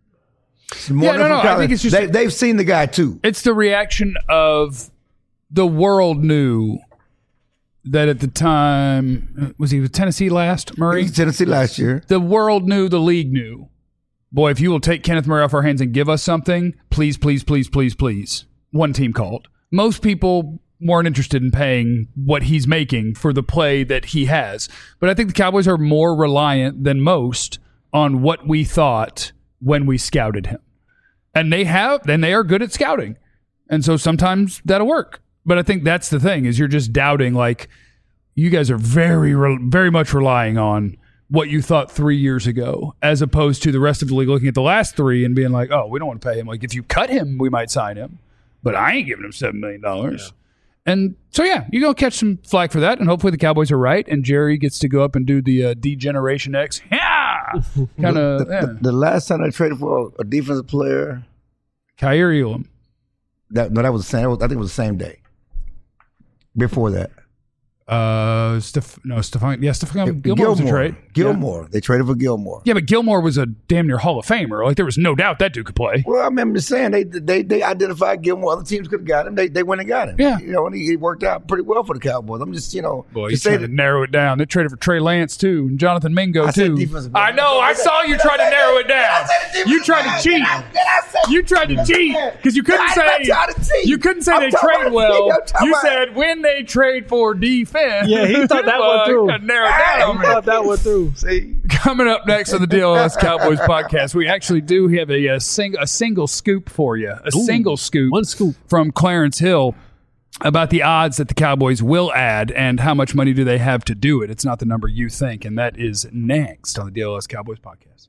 More yeah, no, no. I think it's just they, they've seen the guy too. It's the reaction of the world knew that at the time, was he with Tennessee last, Murray? He was Tennessee last year. The world knew, the league knew. Boy, if you will take Kenneth Murray off our hands and give us something, please, please, please, please, please. One team called. Most people weren't interested in paying what he's making for the play that he has. But I think the Cowboys are more reliant than most on what we thought when we scouted him. And they have, and they are good at scouting. And so sometimes that'll work. But I think that's the thing, is you're just doubting, like, you guys are very, very much relying on what you thought three years ago, as opposed to the rest of the league looking at the last three and being like, oh, we don't want to pay him. Like, if you cut him, we might sign him. But I ain't giving him seven million dollars. Yeah. And so, yeah, you're going to catch some flack for that. And hopefully the Cowboys are right. And Jerry gets to go up and do the uh, D-Generation X. Yeah! Kind of. The, yeah. the, the last time I traded for a defensive player, Kaiir Elam. That, no, that was the same. I think it was the same day. Before that. Uh, Steph, no, Stephon, yeah, Stephon Gilmore was a trade. Gilmore. Yeah. They traded for Gilmore. Yeah, but Gilmore was a damn near Hall of Famer. Like, there was no doubt that dude could play. Well, I remember saying they they they identified Gilmore. Other teams could have got him. They they went and got him. Yeah. You know, and he, he worked out pretty well for the Cowboys. I'm just, you know. Boy, he's trying to narrow it down. They traded for Trey Lance, too, and Jonathan Mingo, I too. I know. I saw you try to narrow it down. You tried to cheat. You tried to cheat because you couldn't say you couldn't say they trade well. You said when they trade for defense. Yeah, he thought that one through. Narrow down. He thought that one through. See, coming up next on the D L S Cowboys podcast, we actually do have a, a, sing, a single scoop for you. A Ooh, single scoop. One scoop. From Clarence Hill about the odds that the Cowboys will add and how much money do they have to do it. It's not the number you think, and that is next on the D L S Cowboys podcast.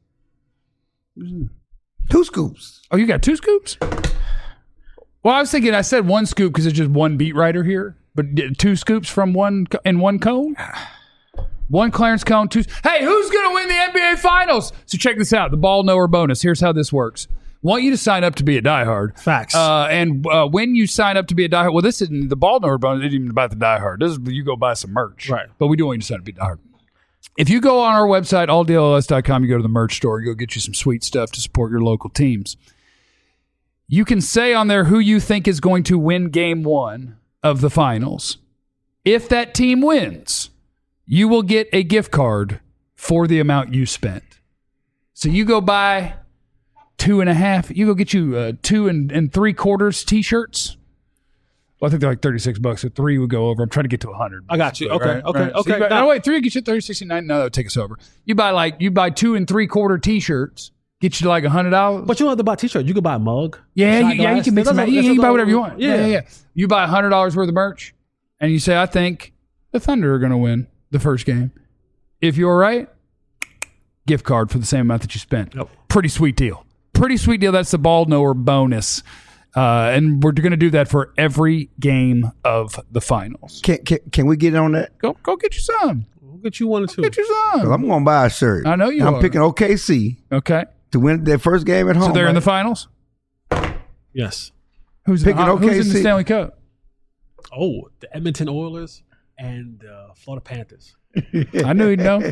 Two scoops. Oh, you got two scoops? Well, I was thinking I said one scoop because it's just one beat writer here, but two scoops from one in one cone? One Clarence Cone, two. Hey, who's going to win the N B A Finals? So check this out. The ball knower bonus. Here's how this works. Want you to sign up to be a diehard. Facts. Uh, and uh, when you sign up to be a diehard, well, this isn't the ball knower bonus. It isn't even about the diehard. This is you go buy some merch. Right. But we do want you to sign up to be a diehard. If you go on our website, all D L S dot com, you go to the merch store, you go get you some sweet stuff to support your local teams. You can say on there who you think is going to win game one of the finals. If that team wins, you will get a gift card for the amount you spent. So you go buy two and a half, you go get you uh, two and, and three quarters t-shirts. Well, I think they're like thirty-six bucks. So three would go over. I'm trying to get to one hundred. I got you. Okay, right, okay, right. So okay. you buy, Got- no, wait, three would get you thirty, sixty-nine. No, that would take us over. You buy like, you buy two and three quarter t-shirts, get you to like one hundred dollars. But you don't have to buy a t-shirt. You can buy a mug. Yeah, shot you, yeah, you glass. can mix That's them. a- You, that's you a can buy little- whatever you want. Yeah. Yeah. yeah, yeah. You buy one hundred dollars worth of merch, and you say, I think the Thunder are going to win the first game. If you're right, gift card for the same amount that you spent. Yep. Pretty sweet deal. Pretty sweet deal. That's the ball knower bonus. Uh, and we're going to do that for every game of the finals. Can, can can we get on that? Go go get you some. We'll get you one or two. Get you 'Cause some. I'm going to buy a shirt. I know you I'm are. picking O K C Okay. to win their first game at home. So they're in the right? finals? Yes. Who's, Picking in the, who's in the O K C. Stanley Cup? Oh, the Edmonton Oilers and uh, Florida Panthers. I knew he'd know.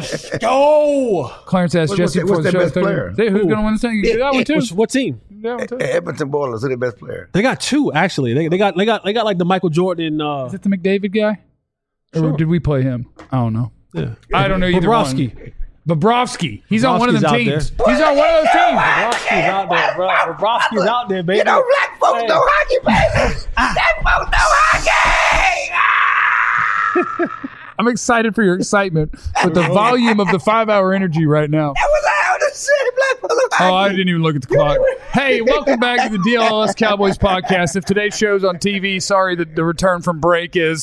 Go! Clarence asked What's Jesse their- before what's the their show. best player? Say, who's Who? going to win this thing? You do that one too. Which, what team? You do that one too. Edmonton Boilers are their best player. They got two actually. They, they got they got they got like the Michael Jordan. Uh, Is it the McDavid guy? Or Sure. did we play him? I don't know. yeah. I don't know either Bobrovsky. one. Bobrovsky. He's on one of them Bobrovsky's out teams. there. He's on one of those teams. Bobrovsky's out there, bro. Bobrovsky's out there, baby. You know, black folks Hey. know hockey, baby. Black folks know hockey. Ah! I'm excited for your excitement with the volume of the five-hour energy right now. That was out of the city, Black folks. Oh, I didn't even look at the clock. Hey, welcome back to the D L S Cowboys podcast. If today's show's on T V, sorry that the return from break is...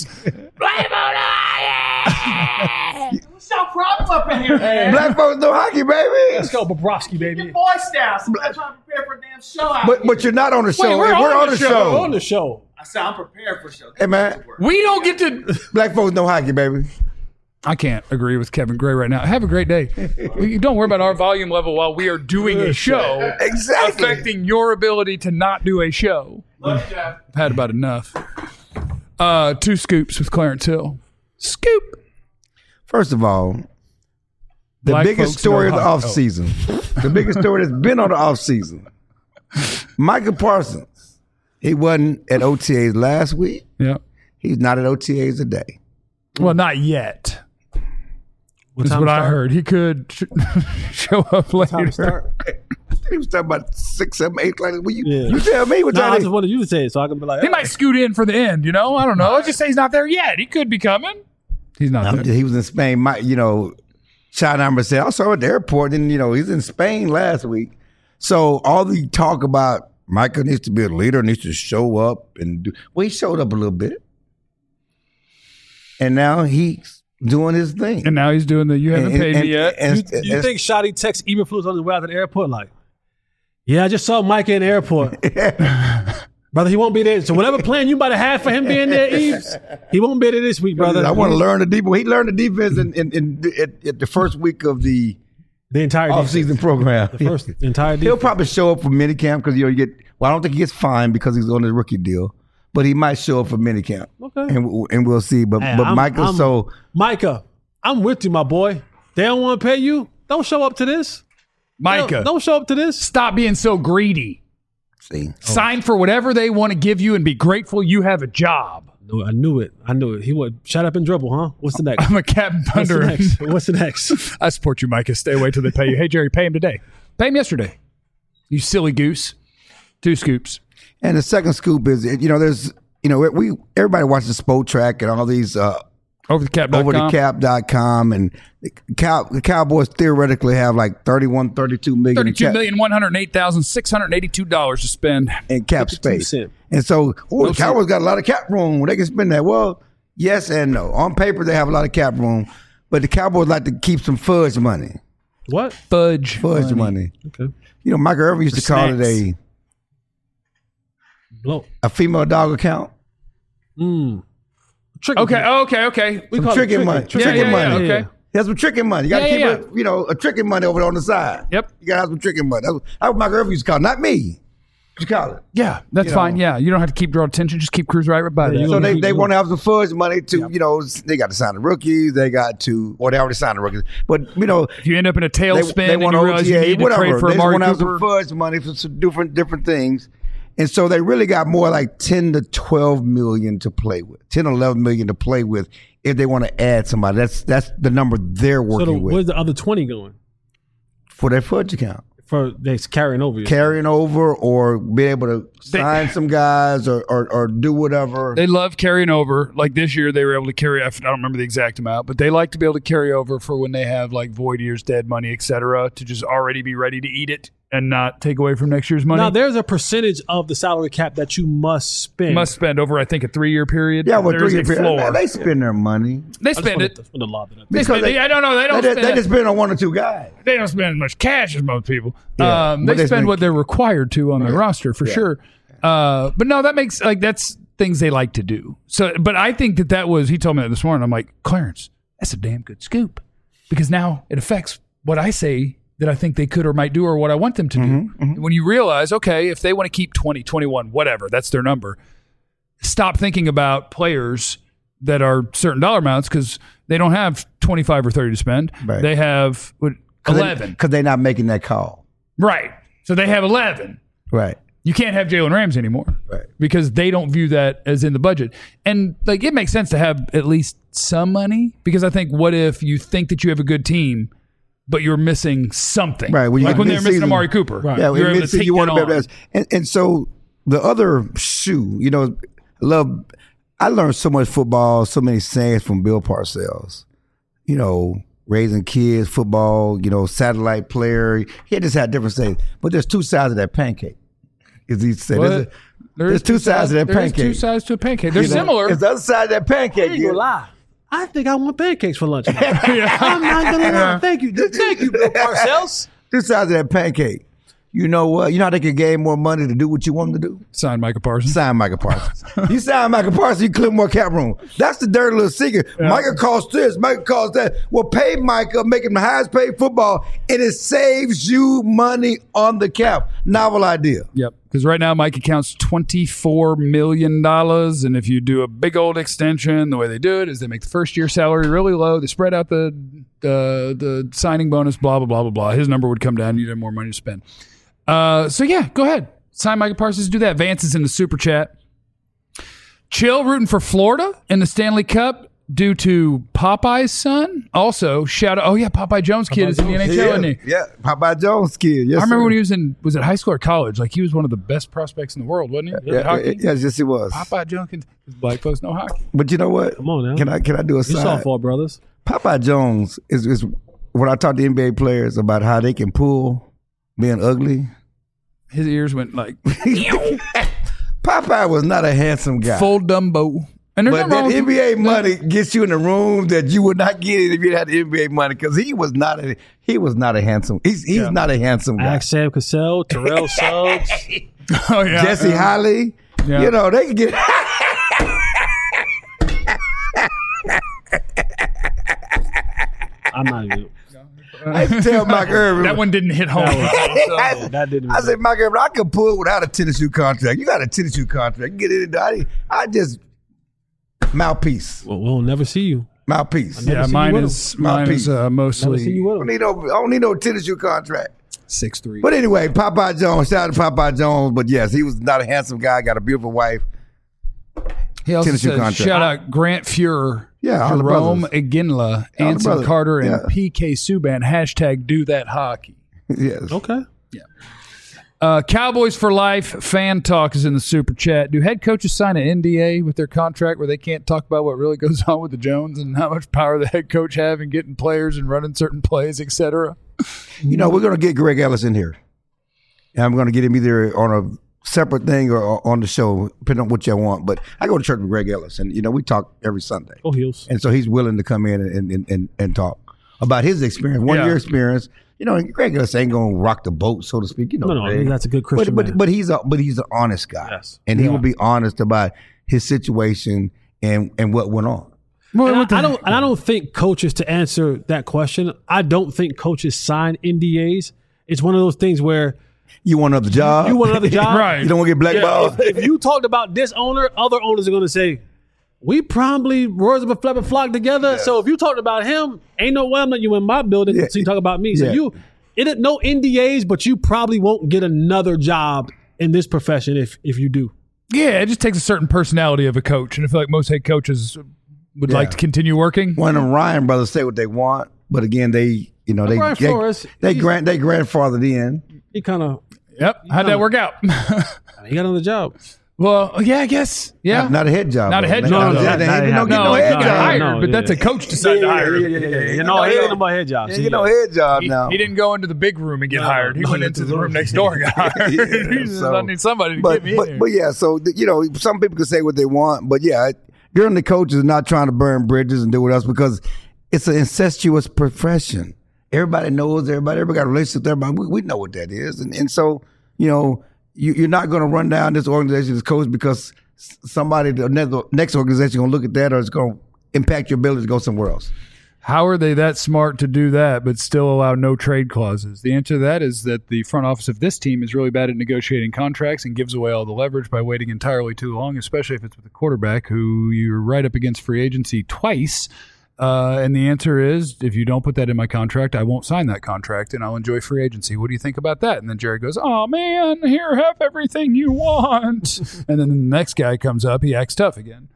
What's your problem up in here, man? Black folks know hockey, baby. Let's go, Bobrovsky, baby. Your voice down. Somebody trying to prepare for a damn show out But here. but you're not on the show. we're Hey, on on the the show. show. We're on the show. I said I'm prepared for a show. Hey, man. We don't get to... Black folks know hockey, baby. I can't agree with Kevin Gray right now. Have a great day. We- Don't worry about our volume level while we are doing a show. Exactly. Affecting your ability to not do a show. Love you, Jeff. I've had about enough. Uh, two scoops with Clarence Hill. Scoop. First of all, the Black biggest folks story of know the hockey. offseason, the biggest story that's been on the offseason, Micah Parsons, he wasn't at O T As last week. Yeah. He's not at O T As today. Well, not yet. That's time what I start? heard. He could sh- show up Time later. to start? He was talking about six, seven, eight. Like, well, you, Yeah. you tell me what No, I time just wanted you to say it so I can be like, He oh. might scoot in for the end, you know? I don't know. Let's just say he's not there yet. He could be coming. He's not I'm there. just- he was in Spain. My, you know, Shot number said, I saw him at the airport. And, you know, he's in Spain last week. So all the talk about Micah needs to be a leader, needs to show up and do. Well, he showed up a little bit. And now he's doing his thing. And now he's doing the you haven't And- paid and- me yet. and- You, you and- think Shotty texts Eberflus on his way out to the airport like, yeah, I just saw Micah in the airport. Brother, he won't be there. So whatever plan you about to have for him being there, Eves, he won't be there this week, brother. I want to learn the defense. He learned the defense in, in, in at, at the first week of the the entire off-season defense. program. The first the entire He'll defense. probably show up for minicamp because you know you get. Well, I don't think he gets fined because he's on his rookie deal, but he might show up for minicamp. Okay. and w- and we'll see. But Hey, but I'm- Michael, I'm- so Micah, I'm with you, my boy. They don't want to pay you. Don't show up to this. Micah, Don't, don't show up to this. stop being so greedy. see. Sign for whatever they want to give you and be grateful you have a job. No, I knew it. I knew it. He would shut up and dribble, huh? What's the next? I'm a Captain What's the Thunder. next? What's the next? I support you, Micah. Stay away till they pay you. Hey, Jerry, pay him today. Pay him yesterday. You silly goose. Two scoops. And the second scoop is you know there's you know we everybody watches Sport Track and all these uh, Over the cap. over the cap dot com and the, Cow, the Cowboys theoretically have like thirty-one, thirty-two million in Thirty-two cap, million one hundred eight thousand six hundred eighty-two dollars to spend. in cap fifty-two space. cent. And so, oh, No the Cowboys got a lot of cap room. They can spend that. Well, yes and no. On paper, they have a lot of cap room, but the Cowboys like to keep some fudge money. What? Fudge. Fudge money. Okay. You know, Michael Irvin used to For call snacks. it a Blow. a female dog account. Mm. Trick. Okay, okay, okay. We Some call it tricking tricky. money. Yeah, Tricking yeah, money. yeah, okay. He has some tricking money. You got to Yeah, keep yeah, it, you know, a tricking money over there on the side. Yep. You got to have some tricking money. That's what, that's what Michael Irvin used to call it, not me. What you call it? Yeah, that's You know. fine. Yeah, you don't have to keep drawing attention. Just keep cruise right by Yeah, that. you So gonna they, keep they going. want to have some fudge money to, you know, they got to sign the rookies. They got to, well, they already signed the rookies. But, you know, If you end up in a they, tailspin they and want you O realize T you A, need to whatever. trade for They just Amari want to have Cooper, some fudge money for some different different things. And so they really got more like ten to twelve million to play with, ten, eleven million to play with if they want to add somebody. That's that's the number they're So working the, with where's the other twenty going? for their fudge account. For they carrying over. Carrying over or be able to They- sign some guys or, or, or do whatever. they love carrying over. Like this year, they were able to carry. I don't remember the exact amount, but they like to be able to carry over for when they have like void years, dead money, et cetera, to just already be ready to eat it and not take away from next year's money. Now there's a percentage of the salary cap that you must spend. Must spend over, I think, a three-year period. yeah, well, There is three a year floor. period. They spend their money. They I just spend wanted it. to- wanted to lob it up. They Because spend they- it. I don't know. They don't They, spend they it. just spend on one or two guys. They don't spend as much cash as most people. Yeah, um, but they they spend spend- what they're required to on their roster for sure. Uh, but no, that makes like that's things they like to do. So, but I think that that was. He told me that this morning. I'm like, Clarence, that's a damn good scoop because now it affects what I say that I think they could or might do or what I want them to do. Mm-hmm, When you realize, okay, if they want to keep twenty, twenty-one, whatever, that's their number. Stop thinking about players that are certain dollar amounts because they don't have twenty-five or thirty to spend. Right. They have what, eleven. Because they're not making that call. Right. So they have eleven. Right. You can't have Jalen Ramsey anymore. Right. Because they don't view that as in the budget. And like it makes sense to have at least some money because I think what if you think that you have a good team but you're missing something. Right, when you like got when they're missing mid-season- Amari Cooper. Right. Yeah, You're in able to mid-season, take you want that to be able on. to. And, and so the other shoe, you know, I love I learned so much football, so many sayings from Bill Parcells. You know, raising kids, football, you know, satellite player. He just had different sayings. But there's two sides of that pancake. As he said, Well, there's, a- There there's is two sides of that there is pancake. two sides to a pancake. They're You know, similar. It's the other side of that I pancake. ain't yeah. gonna lie. I think I want pancakes for lunch. I'm not gonna lie. Thank you. Thank you, Bill Parcells. Two sides of that pancake. You know what? You know how they can gain more money to do what you want them to do? Sign Micah Parsons. Sign Michael Parsons. You sign Michael Parsons, you clear more cap room. That's the dirty little secret. Micah costs this, Micah costs that. Well, pay Micah, make him the highest paid football, and it saves you money on the cap. Novel idea. Yep. Because right now Micah counts twenty-four million dollars. And if you do a big old extension, the way they do it is they make the first year salary really low. They spread out the the, the signing bonus, blah, blah, blah, blah, blah. His number would come down. You'd have more money to spend. Uh, so, yeah, go ahead. Sign Micah Parsons. Do that. Vance is in the super chat. Chill rooting for Florida in the Stanley Cup due to Popeye's son. Also, shout out. Oh, yeah, Popeye Jones kid is in the N H L, Yeah, isn't he? yeah. Popeye Jones kid. Yes, I remember sir. when he was in, was it high school or college? Like, he was one of the best prospects in the world, wasn't he? Yeah, Hockey? yeah, yes, yes, it was. Popeye Jones, because black folks know hockey. But you know what? Come on now. Can I can I do a You side? softball brothers. Popeye Jones is, is when I talk to N B A players about how they can pull being ugly. His ears went like Popeye was not a handsome guy. full Dumbo. And there's But nothing wrong that with- N B A money gets you in a room that you would not get if you had the N B A money because he was not a he was not a handsome he's he's Yeah. not a handsome guy. Ask Sam Cassell, Terrell Suggs. Oh, yeah. Jesse Holly, Yeah. you know they can get. I'm not even. I used to tell Mike Irvin That one didn't hit home. I, That didn't. I said, Mike Irvin, I could pull without a tennis shoe contract. You got a tennis shoe contract. You get it. I, I just mouthpiece, Well, we'll never see you. mouthpiece. Yeah, see you mine with is, him. mine Mouthpiece. is uh, Never see mostly you I with don't him. need no, I don't need no tennis shoe contract. six three. But anyway, Popeye Jones, shout out to Popeye Jones. But yes, he was not a handsome guy. Got a beautiful wife. He also Tennessee says, contract. shout out Grant Fuhrer, Yeah, all the Jerome brothers. Iginla, All the Anson brothers. Carter, and Yeah. P K Subban. Hashtag do that hockey. Yes. Okay. Uh, Cowboys for Life fan talk is in the super chat. Do head coaches sign an N D A with their contract where they can't talk about what really goes on with the Jones and how much power the head coach have in getting players and running certain plays, et cetera? You know, we're going to get Greg Ellis in here. And I'm going to get him either on a separate thing or or on the show, depending on what y'all want. But I go to church with Greg Ellis, and, you know, we talk every Sunday. Go Heels. And so he's willing to come in and, and, and, and talk about his experience, one Yeah. year experience. You know, and Greg Ellis ain't going to rock the boat, so to speak. You know, No, no, Greg. that's a good Christian But, man. but, but he's a but he's an honest guy. Yes. And he will be honest about his situation and, and what went on. Well, And what the- I, I don't. And I don't think coaches, to answer that question, I don't think coaches sign N D As. It's one of those things where You want another job? you want another job, Right. You don't want to get blackballed? If, if you talked about this owner, other owners are going to say, we probably words of a flap and flock together. So if you talked about him, ain't no way I'm letting you in my building. Yeah. So you talk about me. So Yeah. you, it no N D As, but you probably won't get another job in this profession if if you do. yeah, it just takes a certain personality of a coach. And I feel like most head coaaches would like Yeah. to continue working. One of the Ryan brothers say what they want, but again, they you know they Brian they, Flores, they he's- grant they grandfathered in. He kind of Yep. How'd that work out? he got on the job. well, yeah, I guess. Yeah. Not, not a head job. Not a though. head Not- job, not- though. They Not- ain't not- no, get no, no head not no, job. hired, no, but yeah. that's a coach decided to hire. Yeah, yeah, yeah, yeah, yeah. You know, he ain't about head jobs. Ain't get no head job He, now. he didn't go into the big room and get hired. He no, went he into went the to room the- next door and got hired. Yeah, he just so- I need somebody to but, get me but, in here. but yeah, so you know, some people can say what they want, but yeah, you're in the coaches not trying to burn bridges and do what else because it's an incestuous profession. Everybody knows everybody. Everybody got a relationship with everybody. We, we know what that is, and and so you know, you, you're not going to run down this organization as coach because s- somebody the next, next organization going to look at that or it's going to impact your ability to go somewhere else. How are they that smart to do that but still allow no trade clauses? The answer to that is that the front office of this team is really bad at negotiating contracts and gives away all the leverage by waiting entirely too long, especially if it's with a quarterback who you're right up against free agency twice. Uh, and the answer is, if you don't put that in my contract, I won't sign that contract and I'll enjoy free agency. What do you think about that? And then Jerry goes, oh, man, here, have everything you want. And then the next guy comes up, he acts tough again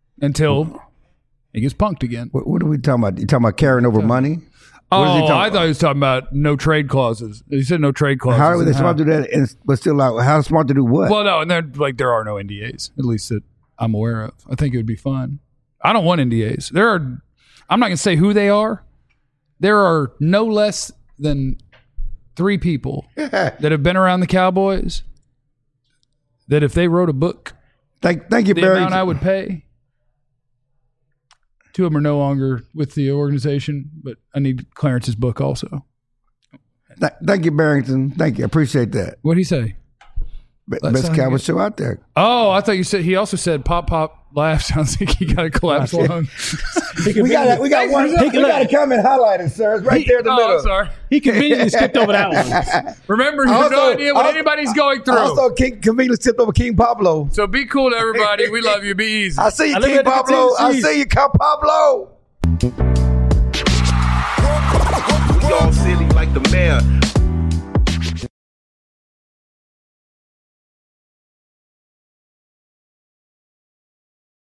until he gets punked again. What, what are we talking about? You talking about carrying over money? What is he Oh, talking I about? thought he was talking about no trade clauses. He said no trade clauses. How are they And smart to do that? And, but still, like, how smart to do what? Well, no, and they're like there are no N D As. At least that I'm aware of. I think it would be fun. I don't want N D As. There are, I'm not going to say who they are. There are no less than three people that have been around the Cowboys that if they wrote a book, Thank, thank you, the Barry. amount I would pay. Two of them are no longer with the organization, but I need Clarence's book also. Th- thank you, Barrington. Thank you. I appreciate that. What'd he say? Be- That's Best how Cowboy you- show out there. Oh, I thought you said, he also said pop, pop, laugh. Sounds like he got a collapsed lung. We got we got one. We got a comment highlighted, sir. It's right there in the Oh, middle. I'm sorry. He conveniently skipped over that one. Remember, you have no Also- idea what also- anybody's going through. Also, King conveniently tipped over King Pablo. So be cool to everybody. We love you. Be easy. I see you, I live King at the Pablo. I Tennessee. see you, King Pablo.